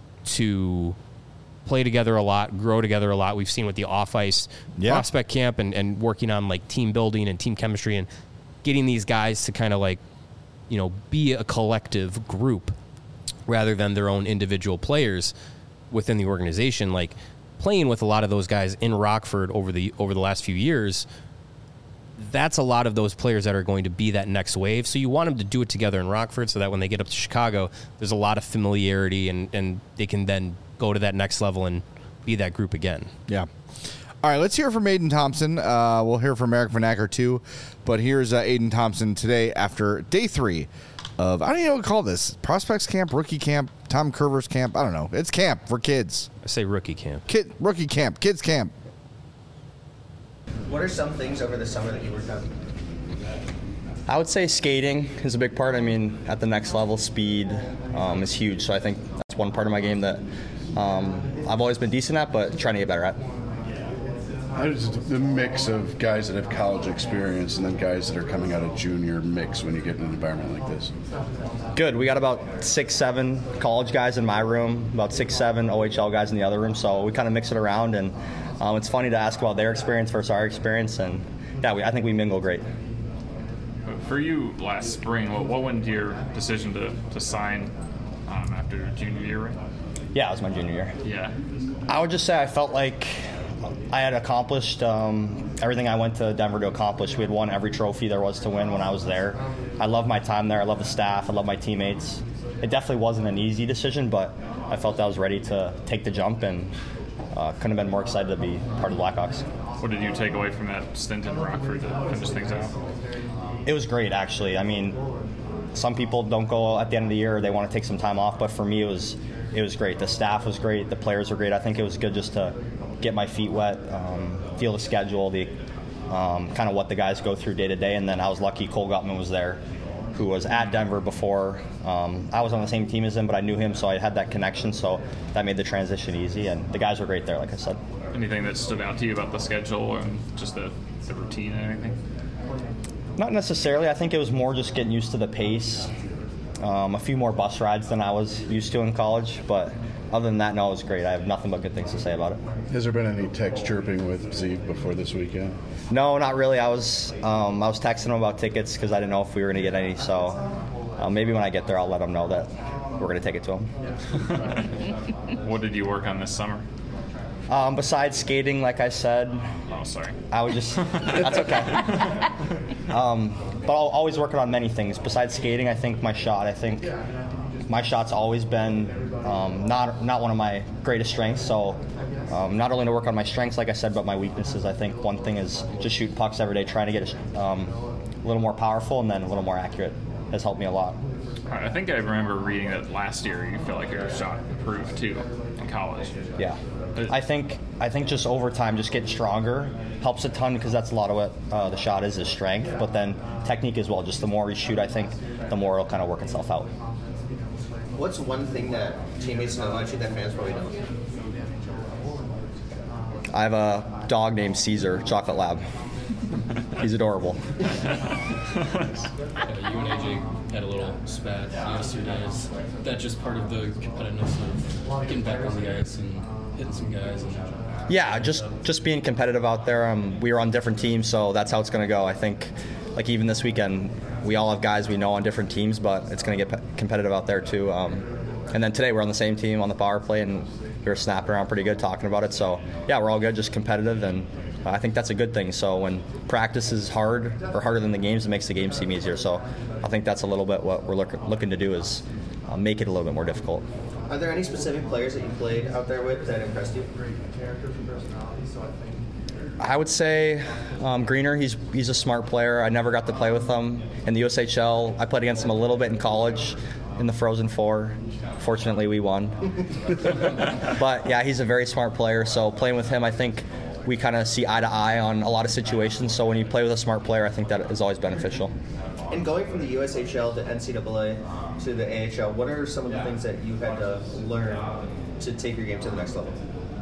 to play together a lot, grow together a lot. We've seen with the off-ice yeah. prospect camp and, and working on, like, team building and team chemistry and getting these guys to kind of, like, you know, be a collective group rather than their own individual players within the organization. Like, playing with a lot of those guys in Rockford over the over the last few years, that's a lot of those players that are going to be that next wave. So you want them to do it together in Rockford so that when they get up to Chicago, there's a lot of familiarity and, and they can then go to that next level and be that group again. Yeah. All right, let's hear from Aiden Thompson. Uh, we'll hear from Eric Vanacker too, but here's uh, Aiden Thompson today after day three of, I don't even know what to call this, prospects camp, rookie camp, Tom Curver's camp. I don't know. It's camp for kids. I say rookie camp. Kid rookie camp. Kids camp. What are some things over the summer that you worked on? I would say skating is a big part. I mean, at the next level, speed um, is huge. So I think that's one part of my game that um, I've always been decent at, but trying to get better at. How does the mix of guys that have college experience and then guys that are coming out of junior mix when you get in an environment like this? Good. We got about six, seven college guys in my room, about six, seven O H L guys in the other room. So we kind of mix it around, and um, it's funny to ask about their experience versus our experience. And yeah, we, I think we mingle great. For you last spring, what, what went into your decision to, to sign um, after junior year, right? Yeah, it was my junior year. Yeah. I would just say I felt like I had accomplished um, everything I went to Denver to accomplish. We had won every trophy there was to win when I was there. I love my time there. I love the staff. I love my teammates. It definitely wasn't an easy decision, but I felt I was ready to take the jump and uh, couldn't have been more excited to be part of the Blackhawks. What did you take away from that stint in Rockford to finish things out? It was great, actually. I mean, some people don't go at the end of the year. They want to take some time off, but for me, it was it was great. The staff was great. The players were great. I think it was good just to get my feet wet, um, feel the schedule, the um, kind of what the guys go through day to day. And then I was lucky Cole Gutman was there, who was at Denver before. Um, I was on the same team as him, but I knew him, so I had that connection. So that made the transition easy. And the guys were great there, like I said. Anything that stood out to you about the schedule and just the, the routine and anything? Not necessarily. I think it was more just getting used to the pace. Um, a few more bus rides than I was used to in college, but other than that, no, it was great. I have nothing but good things to say about it. Has there been any text chirping with Zeev before this weekend? No, not really. I was um, I was texting him about tickets because I didn't know if we were going to get any. So uh, maybe when I get there, I'll let him know that we're going to take it to him. What did you work on this summer? Um, besides skating, like I said, Oh, sorry. I would just, that's okay. Um, but I'll always working on many things. Besides skating, I think my shot, I think my shot's always been um, not not one of my greatest strengths. So um, not only to work on my strengths, like I said, but my weaknesses. I think one thing is just shoot pucks every day, trying to get um, a little more powerful and then a little more accurate has helped me a lot. I think I remember reading that last year you felt like your shot improved too in college. Yeah. I think I think just over time, just getting stronger helps a ton because that's a lot of what uh, the shot is, is strength. But then technique as well. Just the more you shoot, I think, the more it'll kind of work itself out. What's one thing that teammates know about you that fans probably don't? I have a dog named Caesar, Chocolate Lab. He's adorable. Yeah, you and A J had a little spat yesterday. Is that just part of the competitiveness of getting back on the ice and hitting some guys? And Yeah, just just being competitive out there. Um, we were on different teams, so that's how it's going to go. I think, like even this weekend, we all have guys we know on different teams, but it's going to get pe- competitive out there too. Um, and then today we're on the same team on the power play, and we were snapping around pretty good talking about it. So yeah, we're all good, just competitive, and I think that's a good thing. So when practice is hard or harder than the games, it makes the game seem easier. So I think that's a little bit what we're look, looking to do is uh, make it a little bit more difficult. Are there any specific players that you played out there with that impressed you? I would say um, Greener. He's he's a smart player. I never got to play with him in the U S H L. I played against him a little bit in college in the Frozen Four. Fortunately, we won. But yeah, he's a very smart player. So playing with him, I think we kind of see eye to eye on a lot of situations. So when you play with a smart player, I think that is always beneficial. And going from the U S H L to N C double A to the A H L, what are some of the things that you had to learn to take your game to the next level?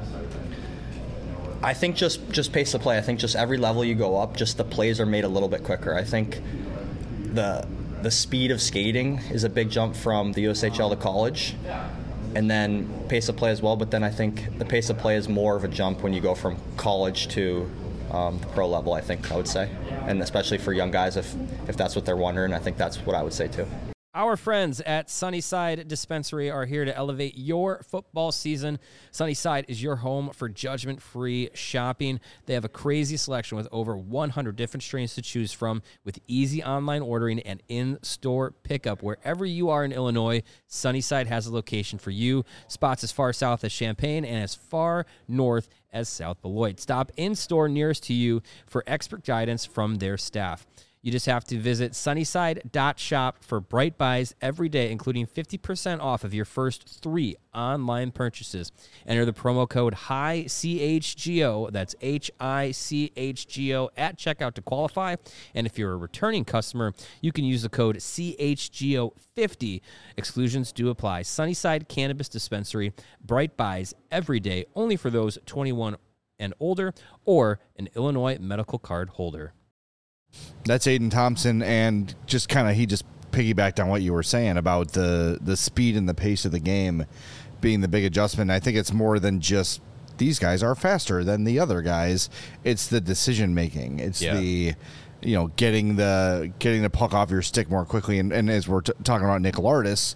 I think just, just pace of play. I think just every level you go up, just the plays are made a little bit quicker. I think the the speed of skating is a big jump from the U S H L to college, and then pace of play as well. But then I think the pace of play is more of a jump when you go from college to um, the pro level, I think I would say. And especially for young guys, if if that's what they're wondering, I think that's what I would say too. Our friends at Sunnyside Dispensary are here to elevate your football season. Sunnyside is your home for judgment-free shopping. They have a crazy selection with over one hundred different strains to choose from, with easy online ordering and in-store pickup. Wherever you are in Illinois, Sunnyside has a location for you. Spots as far south as Champaign and as far north as South Beloit. Stop in-store nearest to you for expert guidance from their staff. You just have to visit sunnyside dot shop for Bright Buys every day, including fifty percent off of your first three online purchases. Enter the promo code H I C H G O, that's H I C H G O, at checkout to qualify. And if you're a returning customer, you can use the code C H G O fifty. Exclusions do apply. Sunnyside Cannabis Dispensary, Bright Buys every day, only for those twenty-one and older or an Illinois medical card holder. That's Aiden Thompson, and just kind of he just piggybacked on what you were saying about the the speed and the pace of the game being the big adjustment. I think it's more than just these guys are faster than the other guys. It's the decision making. It's Yeah. the you know getting the getting the puck off your stick more quickly. And, and as we're t- talking about Nick Lardis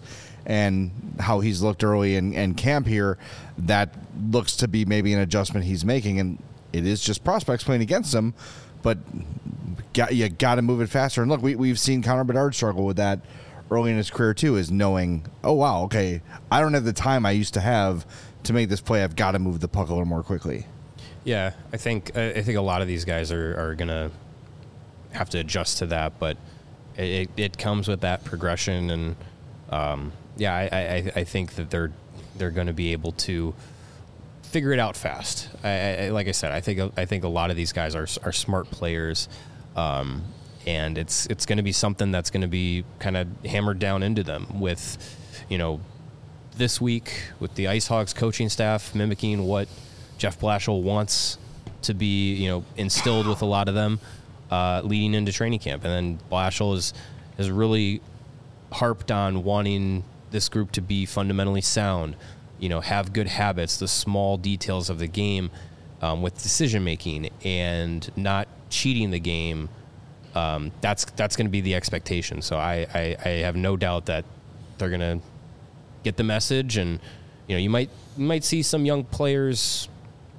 and how he's looked early in, in camp here, that looks to be maybe an adjustment he's making, and it is just prospects playing against him. But got, you got to move it faster. And look, we, we've seen Connor Bedard struggle with that early in his career too, is knowing, oh, wow, okay, I don't have the time I used to have to make this play. I've got to move the puck a little more quickly. Yeah, I think I think a lot of these guys are, are going to have to adjust to that, but it, it comes with that progression. And, um, yeah, I, I, I think that they're they're going to be able to figure it out fast. I, I, like I said, I think I think a lot of these guys are are smart players, um, and it's it's going to be something that's going to be kind of hammered down into them with, you know, this week with the Ice Hogs coaching staff mimicking what Jeff Blashill wants to be, you know, instilled with a lot of them uh, leading into training camp, and then Blashill is has really harped on wanting this group to be fundamentally sound. You know, have good habits, the small details of the game um, with decision making and not cheating the game. Um, that's that's going to be the expectation. So I, I, I have no doubt that they're going to get the message, and you know, you might you might see some young players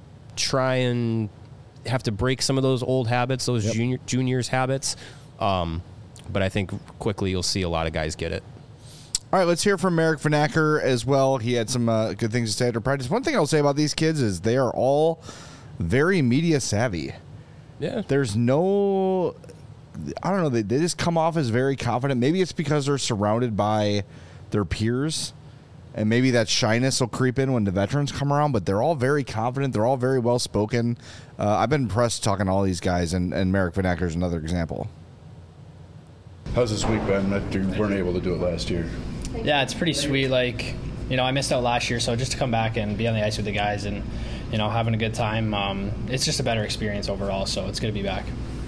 try and have to break some of those old habits, those yep. junior juniors habits. Um, but I think quickly you'll see a lot of guys get it. All right, let's hear from Merrick Vanacker as well. He had some uh, good things to say after practice. One thing I'll say about these kids is they are all very media savvy. Yeah. There's no, I don't know, they, they just come off as very confident. Maybe it's because they're surrounded by their peers, and maybe that shyness will creep in when the veterans come around, but they're all very confident. They're all very well-spoken. Uh, I've been impressed talking to all these guys, and, and Merrick Vanacker is another example. How's this week been after you weren't able to do it last year? Yeah, it's pretty sweet. Like, you know, I missed out last year, so just to come back and be on the ice with the guys and, you know, having a good time, um, it's just a better experience overall, so it's good to be back.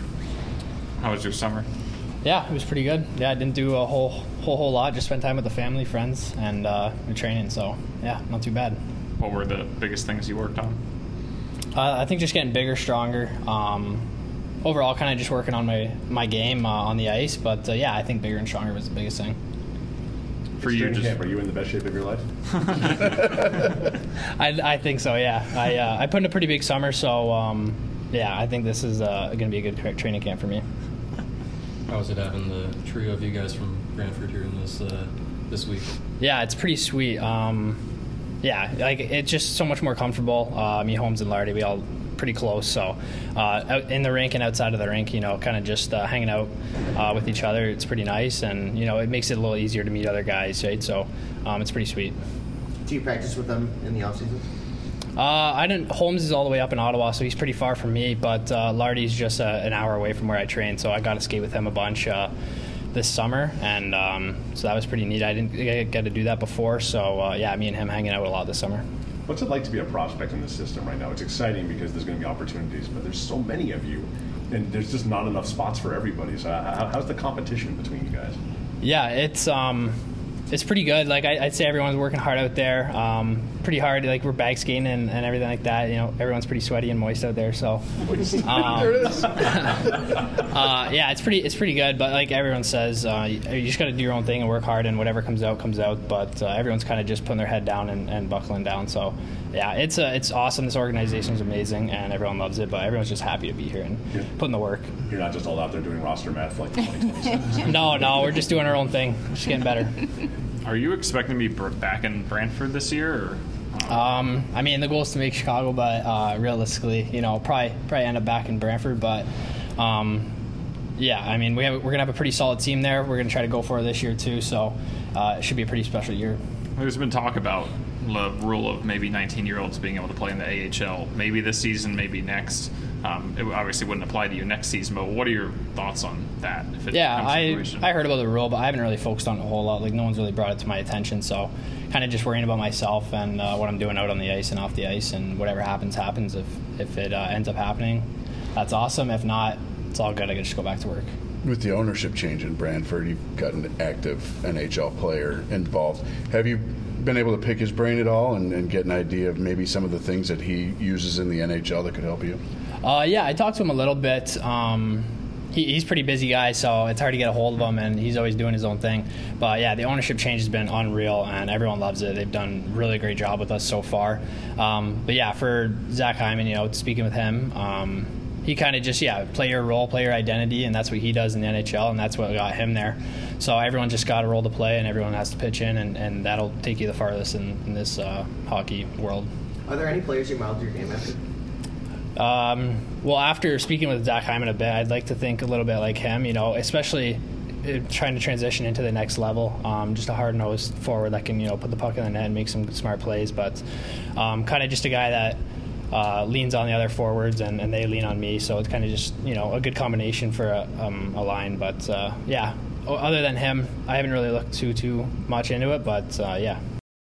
How was your summer? Yeah, it was pretty good. Yeah, I didn't do a whole whole whole lot. Just spent time with the family, friends, and uh, training. So yeah, not too bad. What were the biggest things you worked on? Uh, I think just getting bigger, stronger. Um, overall, kind of just working on my my game uh, on the ice. But uh, yeah, I think bigger and stronger was the biggest thing. For you, just camp, are you in the best shape of your life? I, I think so. Yeah, I uh, I put in a pretty big summer, so um, yeah, I think this is uh, going to be a good training camp for me. How was it having the trio of you guys from Brantford here in this uh, this week? Yeah, it's pretty sweet. Um, yeah, like it's just so much more comfortable. Uh, me, Holmes, and Lardy, we all pretty close. So uh, out in the rink and outside of the rink, you know, kind of just uh, hanging out uh, with each other. It's pretty nice, and you know, it makes it a little easier to meet other guys, right? So um, it's pretty sweet. Do you practice with them in the off season? Uh, I didn't. Holmes is all the way up in Ottawa, so he's pretty far from me. But uh, Lardy's just uh, an hour away from where I train, so I got to skate with him a bunch uh, this summer, and um, so that was pretty neat. I didn't get to do that before, so uh, yeah, me and him hanging out a lot this summer. What's it like to be a prospect in this system right now? It's exciting because there's going to be opportunities, but there's so many of you, and there's just not enough spots for everybody. So how, how's the competition between you guys? Yeah, it's um, it's pretty good. Like I, I'd say everyone's working hard out there. Um, pretty hard. Like we're bag skating and, and everything like that. You know, everyone's pretty sweaty and moist out there. So um, there it is. uh, yeah, it's pretty it's pretty good. But like everyone says, uh, you, you just got to do your own thing and work hard, and whatever comes out comes out. But uh, everyone's kind of just putting their head down and, and buckling down. So yeah, it's uh, it's awesome. This organization is amazing, and everyone loves it. But everyone's just happy to be here and yeah. putting the work. You're not just all out there doing roster math like the twenty twenty-seven. No, no, we're just doing our own thing. Just getting better. Are you expecting to be back in Brantford this year? Or? Um, I mean, the goal is to make Chicago, but uh, realistically, you know, probably probably end up back in Brantford. But um, yeah, I mean, we have, we're going to have a pretty solid team there. We're going to try to go for it this year, too. So uh, it should be a pretty special year. There's been talk about the rule of maybe nineteen-year-olds being able to play in the A H L, maybe this season, maybe next. Um, it obviously wouldn't apply to you next season, but what are your thoughts on that? If it yeah, comes to I fruition? I heard about the rule, but I haven't really focused on it a whole lot. Like, no one's really brought it to my attention, so kind of just worrying about myself and uh, what I'm doing out on the ice and off the ice, and whatever happens, happens. If, if it uh, ends up happening, that's awesome. If not, it's all good. I can just go back to work. With the ownership change in Brantford, you've got an active N H L player involved. Have you been able to pick his brain at all and, and get an idea of maybe some of the things that he uses in the N H L that could help you? Uh, yeah, I talked to him a little bit. Um, he, he's a pretty busy guy, so it's hard to get a hold of him, and he's always doing his own thing. But yeah, the ownership change has been unreal, and everyone loves it. They've done a really great job with us so far. Um, but yeah, for Zach Hyman, you know, speaking with him, um, he kind of just, yeah, play your role, play your identity, and that's what he does in the N H L, and that's what got him there. So everyone just got a role to play, and everyone has to pitch in, and, and that'll take you the farthest in, in this uh, hockey world. Are there any players you modeled your game after? Um, well, after speaking with Zach Hyman a bit, I'd like to think a little bit like him, you know, especially trying to transition into the next level. Um, just a hard-nosed forward that can, you know, put the puck in the net and make some smart plays, but um, kind of just a guy that uh, leans on the other forwards and, and they lean on me, so it's kind of just, you know, a good combination for a, um, a line. But, uh, yeah, other than him, I haven't really looked too, too much into it, but, uh, yeah.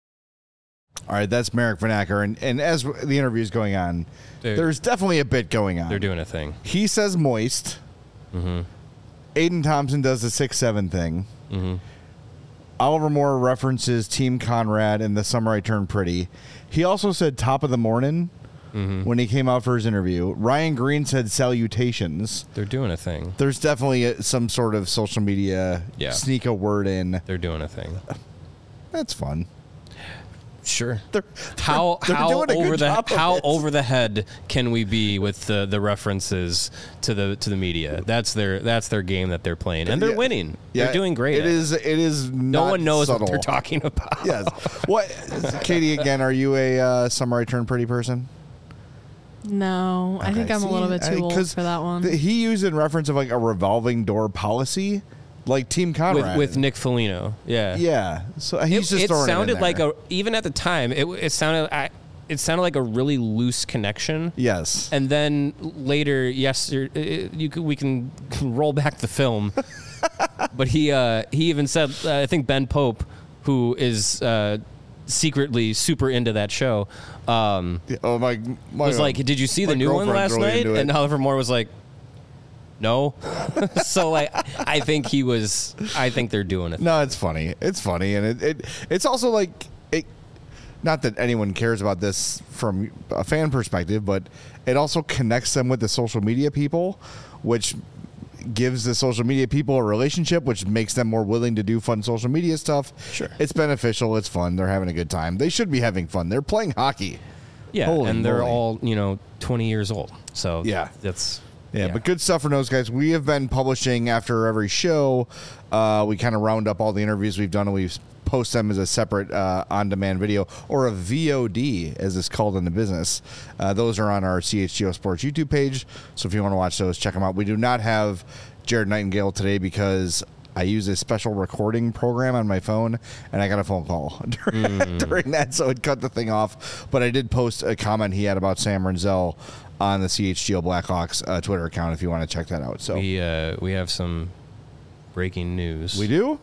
All right, that's Marek Vanacker, and, and as the interview is going on, Dude, there's definitely a bit going on. They're doing a thing. He says moist. Mm-hmm. Aiden Thompson does the six seven thing. Mm-hmm. Oliver Moore references Team Conrad and The Summer I Turned Pretty. He also said top of the morning mm-hmm. when he came out for his interview. Ryan Green said salutations. They're doing a thing. There's definitely a, some sort of social media yeah. sneak a word in. They're doing a thing. That's fun. Sure. They're, how they're how over the how it. over the head can we be with the, the references to the to the media? That's their that's their game that they're playing, and they're yeah. winning. Yeah, they're doing great. It is it is no not one knows subtle. what they're talking about. Yes. What, Katie? Again, are you a uh, Summer I Turned Pretty person? No, I Okay, think I'm see, a little bit too I- old 'cause for that one. th- he used it in reference of like a revolving door policy, like Team Conrad with, with Nick Foligno. Yeah. Yeah. So he's it, just it throwing sounded it in like there. a even at the time it it sounded I, it sounded like a really loose connection. Yes. And then later, yes, you could, we can roll back the film, but he uh, he even said uh, I think Ben Pope, who is uh, secretly super into that show, um, oh my, my was like, did you see the new one last night? And Oliver Moore was like, no. So like, I think he was. I think they're doing it. No, it's funny. It's funny, and it, it it's also like it. Not that anyone cares about this from a fan perspective, but it also connects them with the social media people, which gives the social media people a relationship, which makes them more willing to do fun social media stuff. Sure, it's beneficial. It's fun. They're having a good time. They should be having fun. They're playing hockey. Yeah, Holy and they're moly. all you know twenty years old. So Yeah. that's. Yeah, Yeah. but good stuff for those guys. We have been publishing after every show. Uh, we kind of round up all the interviews we've done, and we post them as a separate uh, on-demand video, or a V O D, as it's called in the business. Uh, those are on our C H G O Sports YouTube page, so if you want to watch those, check them out. We do not have Jared Nightingale today because I use a special recording program on my phone, and I got a phone call during, Mm. during that, so it cut the thing off. But I did post a comment he had about Sam Renzel on the C H G O Blackhawks uh, Twitter account if you want to check that out. So we uh, we have some breaking news. we do.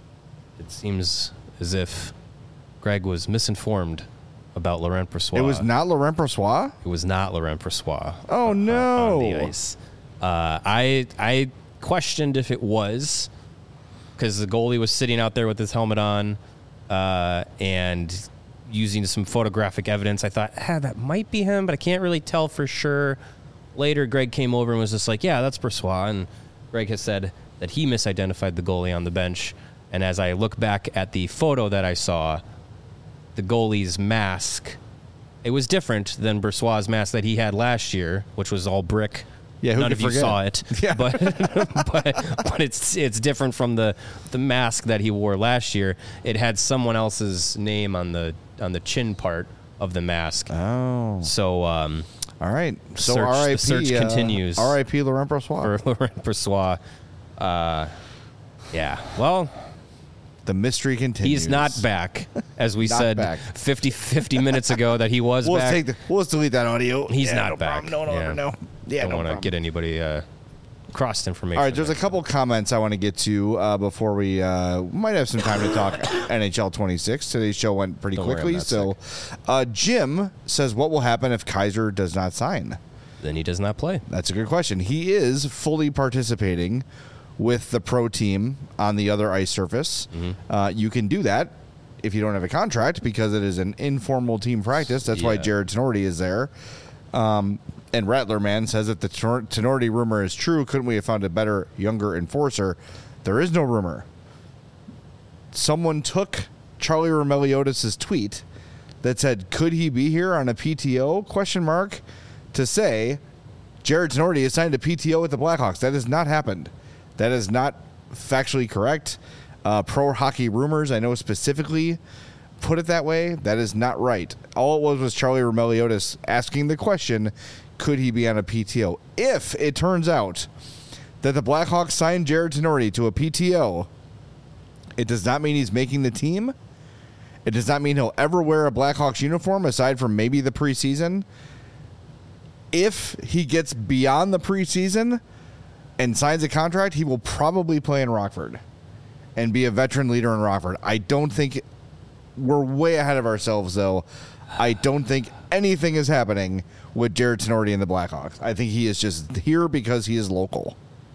It seems as if Greg was misinformed about Laurent Brossoit. It was not Laurent Brossoit. It was not Laurent Brossoit. Oh on- no! On the ice. Uh, I I questioned if it was because the goalie was sitting out there with his helmet on uh, and using some photographic evidence. I thought, ah, that might be him, but I can't really tell for sure. Later, Greg came over and was just like, yeah, that's Brossoit. And Greg has said that he misidentified the goalie on the bench. And as I look back at the photo that I saw, the goalie's mask, it was different than Brossoit's mask that he had last year, which was all brick. Yeah, who none could of you forget? saw it, Yeah. but but but it's it's different from the the mask that he wore last year. It had someone else's name on the on the chin part of the mask. Oh, So um, All right. So search- R I P. the search uh, continues. R I P Laurent Brossois. For Laurent Brossois. Uh, yeah. Well, the mystery continues. he's not back, as we Not said back. fifty, fifty minutes ago that he was We'll back. take the, we'll just delete that audio. He's Yeah, not no back. problem. No, no, Yeah. no, no. Yeah, Don't no want to problem. get anybody uh, crossed information. All right, there's a there. couple comments I want to get to uh, before we uh, might have some time to talk N H L twenty-six. Today's show went pretty Don't worry, quickly. I'm not So, uh, Jim says, what will happen if Kaiser does not sign? Then he does not play. That's a good question. He is fully participating with the pro team on the other ice surface. Mm-hmm. Uh, you can do that if you don't have a contract because it is an informal team practice. That's why Yeah. Jared Tenorti is there. Um, and Rattler Man says if the Tenor- Tenorti rumor is true, couldn't we have found a better, younger enforcer? There is no rumor. Someone took Charlie Romeliotis' tweet that said, could he be here on a P T O, question mark, to say Jared Tenorti has signed a P T O with the Blackhawks. That has not happened. That is not factually correct. Uh, Pro Hockey Rumors, I know specifically, put it that way. That is not right. All it was was Charlie Romeliotis asking the question, could he be on a P T O? If it turns out that the Blackhawks signed Jared Tenorti to a P T O, it does not mean he's making the team. It does not mean he'll ever wear a Blackhawks uniform aside from maybe the preseason. If he gets beyond the preseason and signs a contract, he will probably play in Rockford and be a veteran leader in Rockford. I don't think we're way ahead of ourselves, though. I don't think anything is happening with Jared Tenorti and the Blackhawks. I think he is just here because he is local.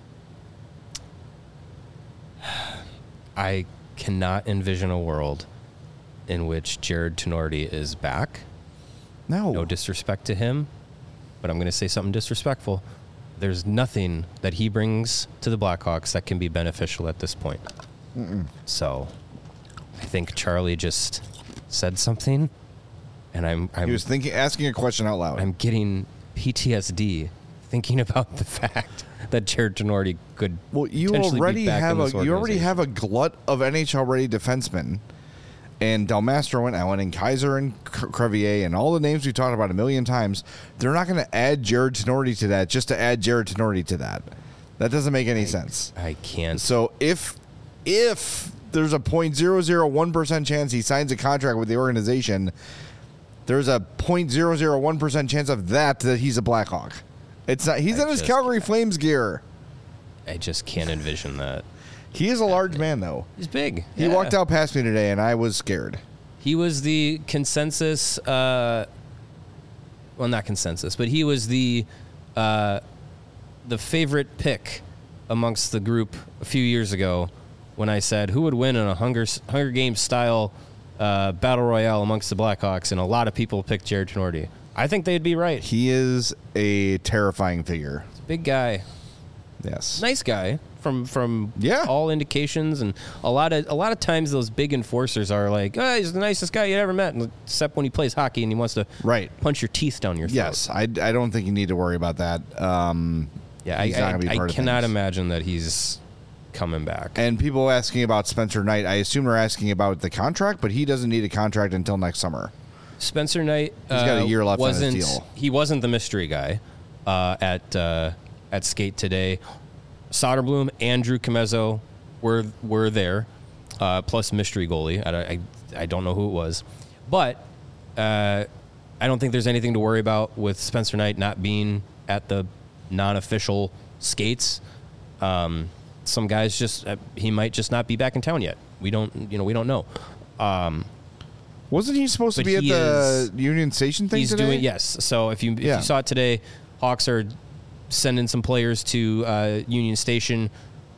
I cannot envision a world in which Jared Tenorti is back. No. No disrespect to him, but I'm going to say something disrespectful. There's nothing that he brings to the Blackhawks that can be beneficial at this point. Mm-mm. So I think Charlie just said something, and I'm, I'm He was thinking, asking a question out loud. I'm getting P T S D thinking about the fact that Jared Tenorti could Well, you potentially already be back have in a this you already organization. have a glut of N H L ready defensemen, and Del Mastro and Allen and Kaiser and Cre- Crevier and all the names we talked about a million times. They're not going to add Jared Tenorti to that just to add Jared Tenorti to that. That doesn't make any sense. I can't. So if if there's a point zero zero one percent chance he signs a contract with the organization, there's a point zero zero one percent chance of that that he's a Blackhawk. It's not. He's I in his just- Calgary Flames gear. I just can't envision that. He is a large man, though. He's big. He Yeah. walked out past me today, and I was scared. He was the consensus. Uh, well, not consensus, but he was the uh, the favorite pick amongst the group a few years ago when I said who would win in a Hunger Hunger Games style uh, battle royale amongst the Blackhawks, and a lot of people picked Jared Tenorti. I think they'd be right. He is a terrifying figure. Big guy, Yes. nice guy from from Yeah. all indications, and a lot of a lot of times those big enforcers are like, oh, he's the nicest guy you ever met, except when he plays hockey and he wants to Right. punch your teeth down your throat. Yes. I, I don't think you need to worry about that. Um, Yeah, I, he's not I, gonna be I part of cannot things. imagine that he's coming back. And people asking about Spencer Knight, I assume they're asking about the contract, but he doesn't need a contract until next summer. Spencer Knight He's got a uh, year left on his wasn't, deal. He wasn't the mystery guy uh, at uh, at Skate today. Soderblom and Drew Comezzo were were there, uh, plus mystery goalie. I, I, I don't know who it was, but uh, I don't think there's anything to worry about with Spencer Knight not being at the non-official skates. Um, some guys just uh, he might just not be back in town yet. We don't you know we don't know. Um, Wasn't he supposed to But be at he the is- Union Station thing He's today? doing yes. So if you if Yeah. you saw it today, Hawks are sending some players to uh, Union Station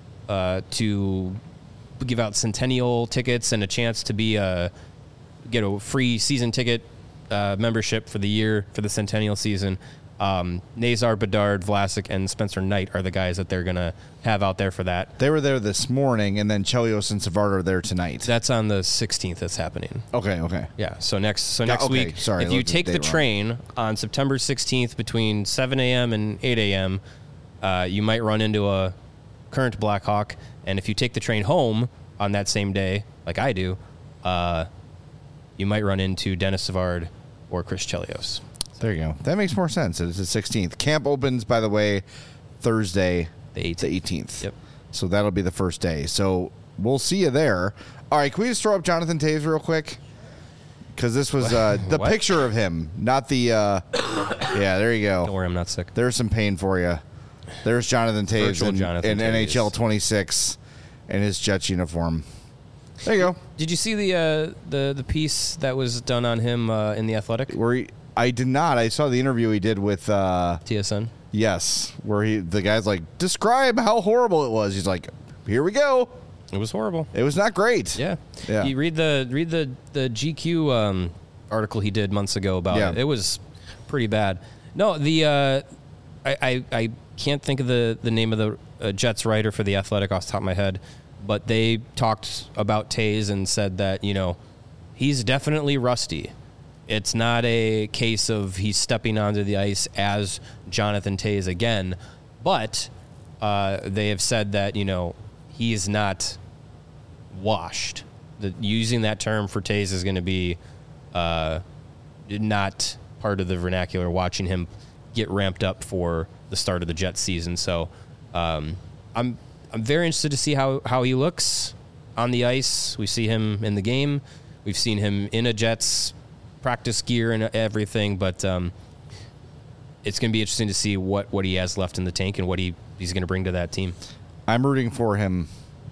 uh, to give out Centennial tickets and a chance to be a get a free season ticket uh, membership for the year for the Centennial season. Um, Nazar, Bedard, Vlasic, and Spencer Knight are the guys that they're gonna have out there for that. They were there this morning, and then Chelios and Savard are there tonight. That's on the sixteenth. That's happening. Okay, okay. Yeah. So next, so Yeah, next okay, week, sorry, if I you looked at take the the date wrong. train on September sixteenth between seven a.m. and eight a.m., uh, you might run into a current Blackhawk, and if you take the train home on that same day, like I do, uh, you might run into Dennis Savard or Chris Chelios. There you go. That makes more sense. It's the sixteenth. Camp opens, by the way, Thursday, The eighteenth. the eighteenth. Yep. So that'll be the first day. So we'll see you there. All right, can we just throw up Jonathan Toews real quick? Because this was uh, the What? picture of him, not the. Uh, yeah, there you go. Don't worry, I'm not sick. There's some pain for you. There's Jonathan Toews Virtual in, Jonathan in Toews. N H L twenty-six in his Jets uniform. There you go. Did you see the uh, the the piece that was done on him uh, in the Athletic? Where he, I did not. I saw the interview he did with. Uh, T S N. yes, where he the guy's like, describe how horrible it was. He's like, here we go. It was horrible. It was not great. Yeah. Yeah. You read the read the the G Q um, article he did months ago about Yeah. it. It was pretty bad. No, the uh, I, I I can't think of the the name of the uh, Jets writer for the Athletic off the top of my head, but they talked about Toews and said that, you know, he's definitely rusty. It's not a case of he's stepping onto the ice as Jonathan Toews again, but uh, they have said that, you know, he is not washed. The, using that term for Toews is going to be uh, not part of the vernacular, watching him get ramped up for the start of the Jets season. So um, I'm I'm very interested to see how, how he looks on the ice. We see him in the game. We've seen him in a Jets practice gear and everything, but um, it's going to be interesting to see what, what he has left in the tank and what he, he's going to bring to that team. I'm rooting for him.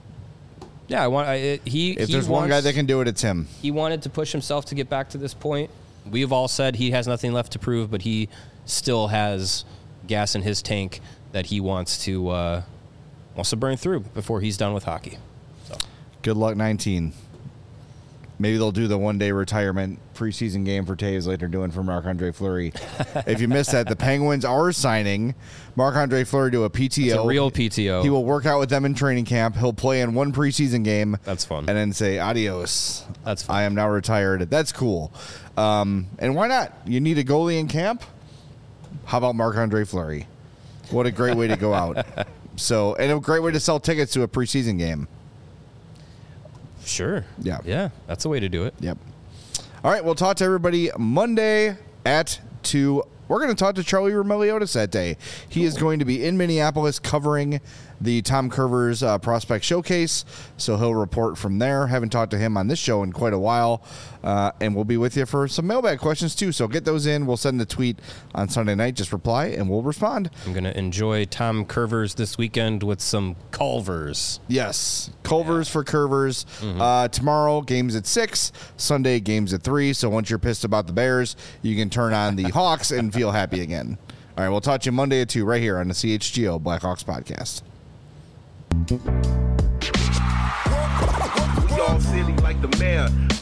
Yeah, I want. I, it- he. If he there's one wants- guy that can do it, it's him. He wanted to push himself to get back to this point. We've all said he has nothing left to prove, but he still has gas in his tank that he wants to uh, wants to burn through before he's done with hockey. So Good luck, nineteen. Maybe they'll do the one-day retirement preseason game for Toews like they're doing for Marc-Andre Fleury. If you missed that, the Penguins are signing Marc-Andre Fleury to a P T O. It's a real P T O. He will work out with them in training camp. He'll play in one preseason game. That's fun. And then say, adios. That's fun. I am now retired. That's cool. Um, and why not? You need a goalie in camp? How about Marc-Andre Fleury? What a great way to go out. So, and a great way to sell tickets to a preseason game. Sure. Yeah. Yeah, that's a way to do it. Yep. All right, we'll talk to everybody Monday at two. We're going to talk to Charlie Roumeliotis that day. He is going to be in Minneapolis covering the Tom Curvers uh, Prospect Showcase, so he'll report from there. Haven't talked to him on this show in quite a while, uh, and we'll be with you for some mailbag questions too, so get those in. We'll send the tweet on Sunday night. Just reply, and we'll respond. I'm going to enjoy Tom Curvers this weekend with some Culvers. Yes, Culvers for Curvers. Mm-hmm. Uh, tomorrow, games at six. Sunday, games at three. So once you're pissed about the Bears, you can turn on the Hawks and feel happy again. All right, we'll talk to you Monday at two right here on the C H G O Blackhawks podcast. We all silly like the mayor.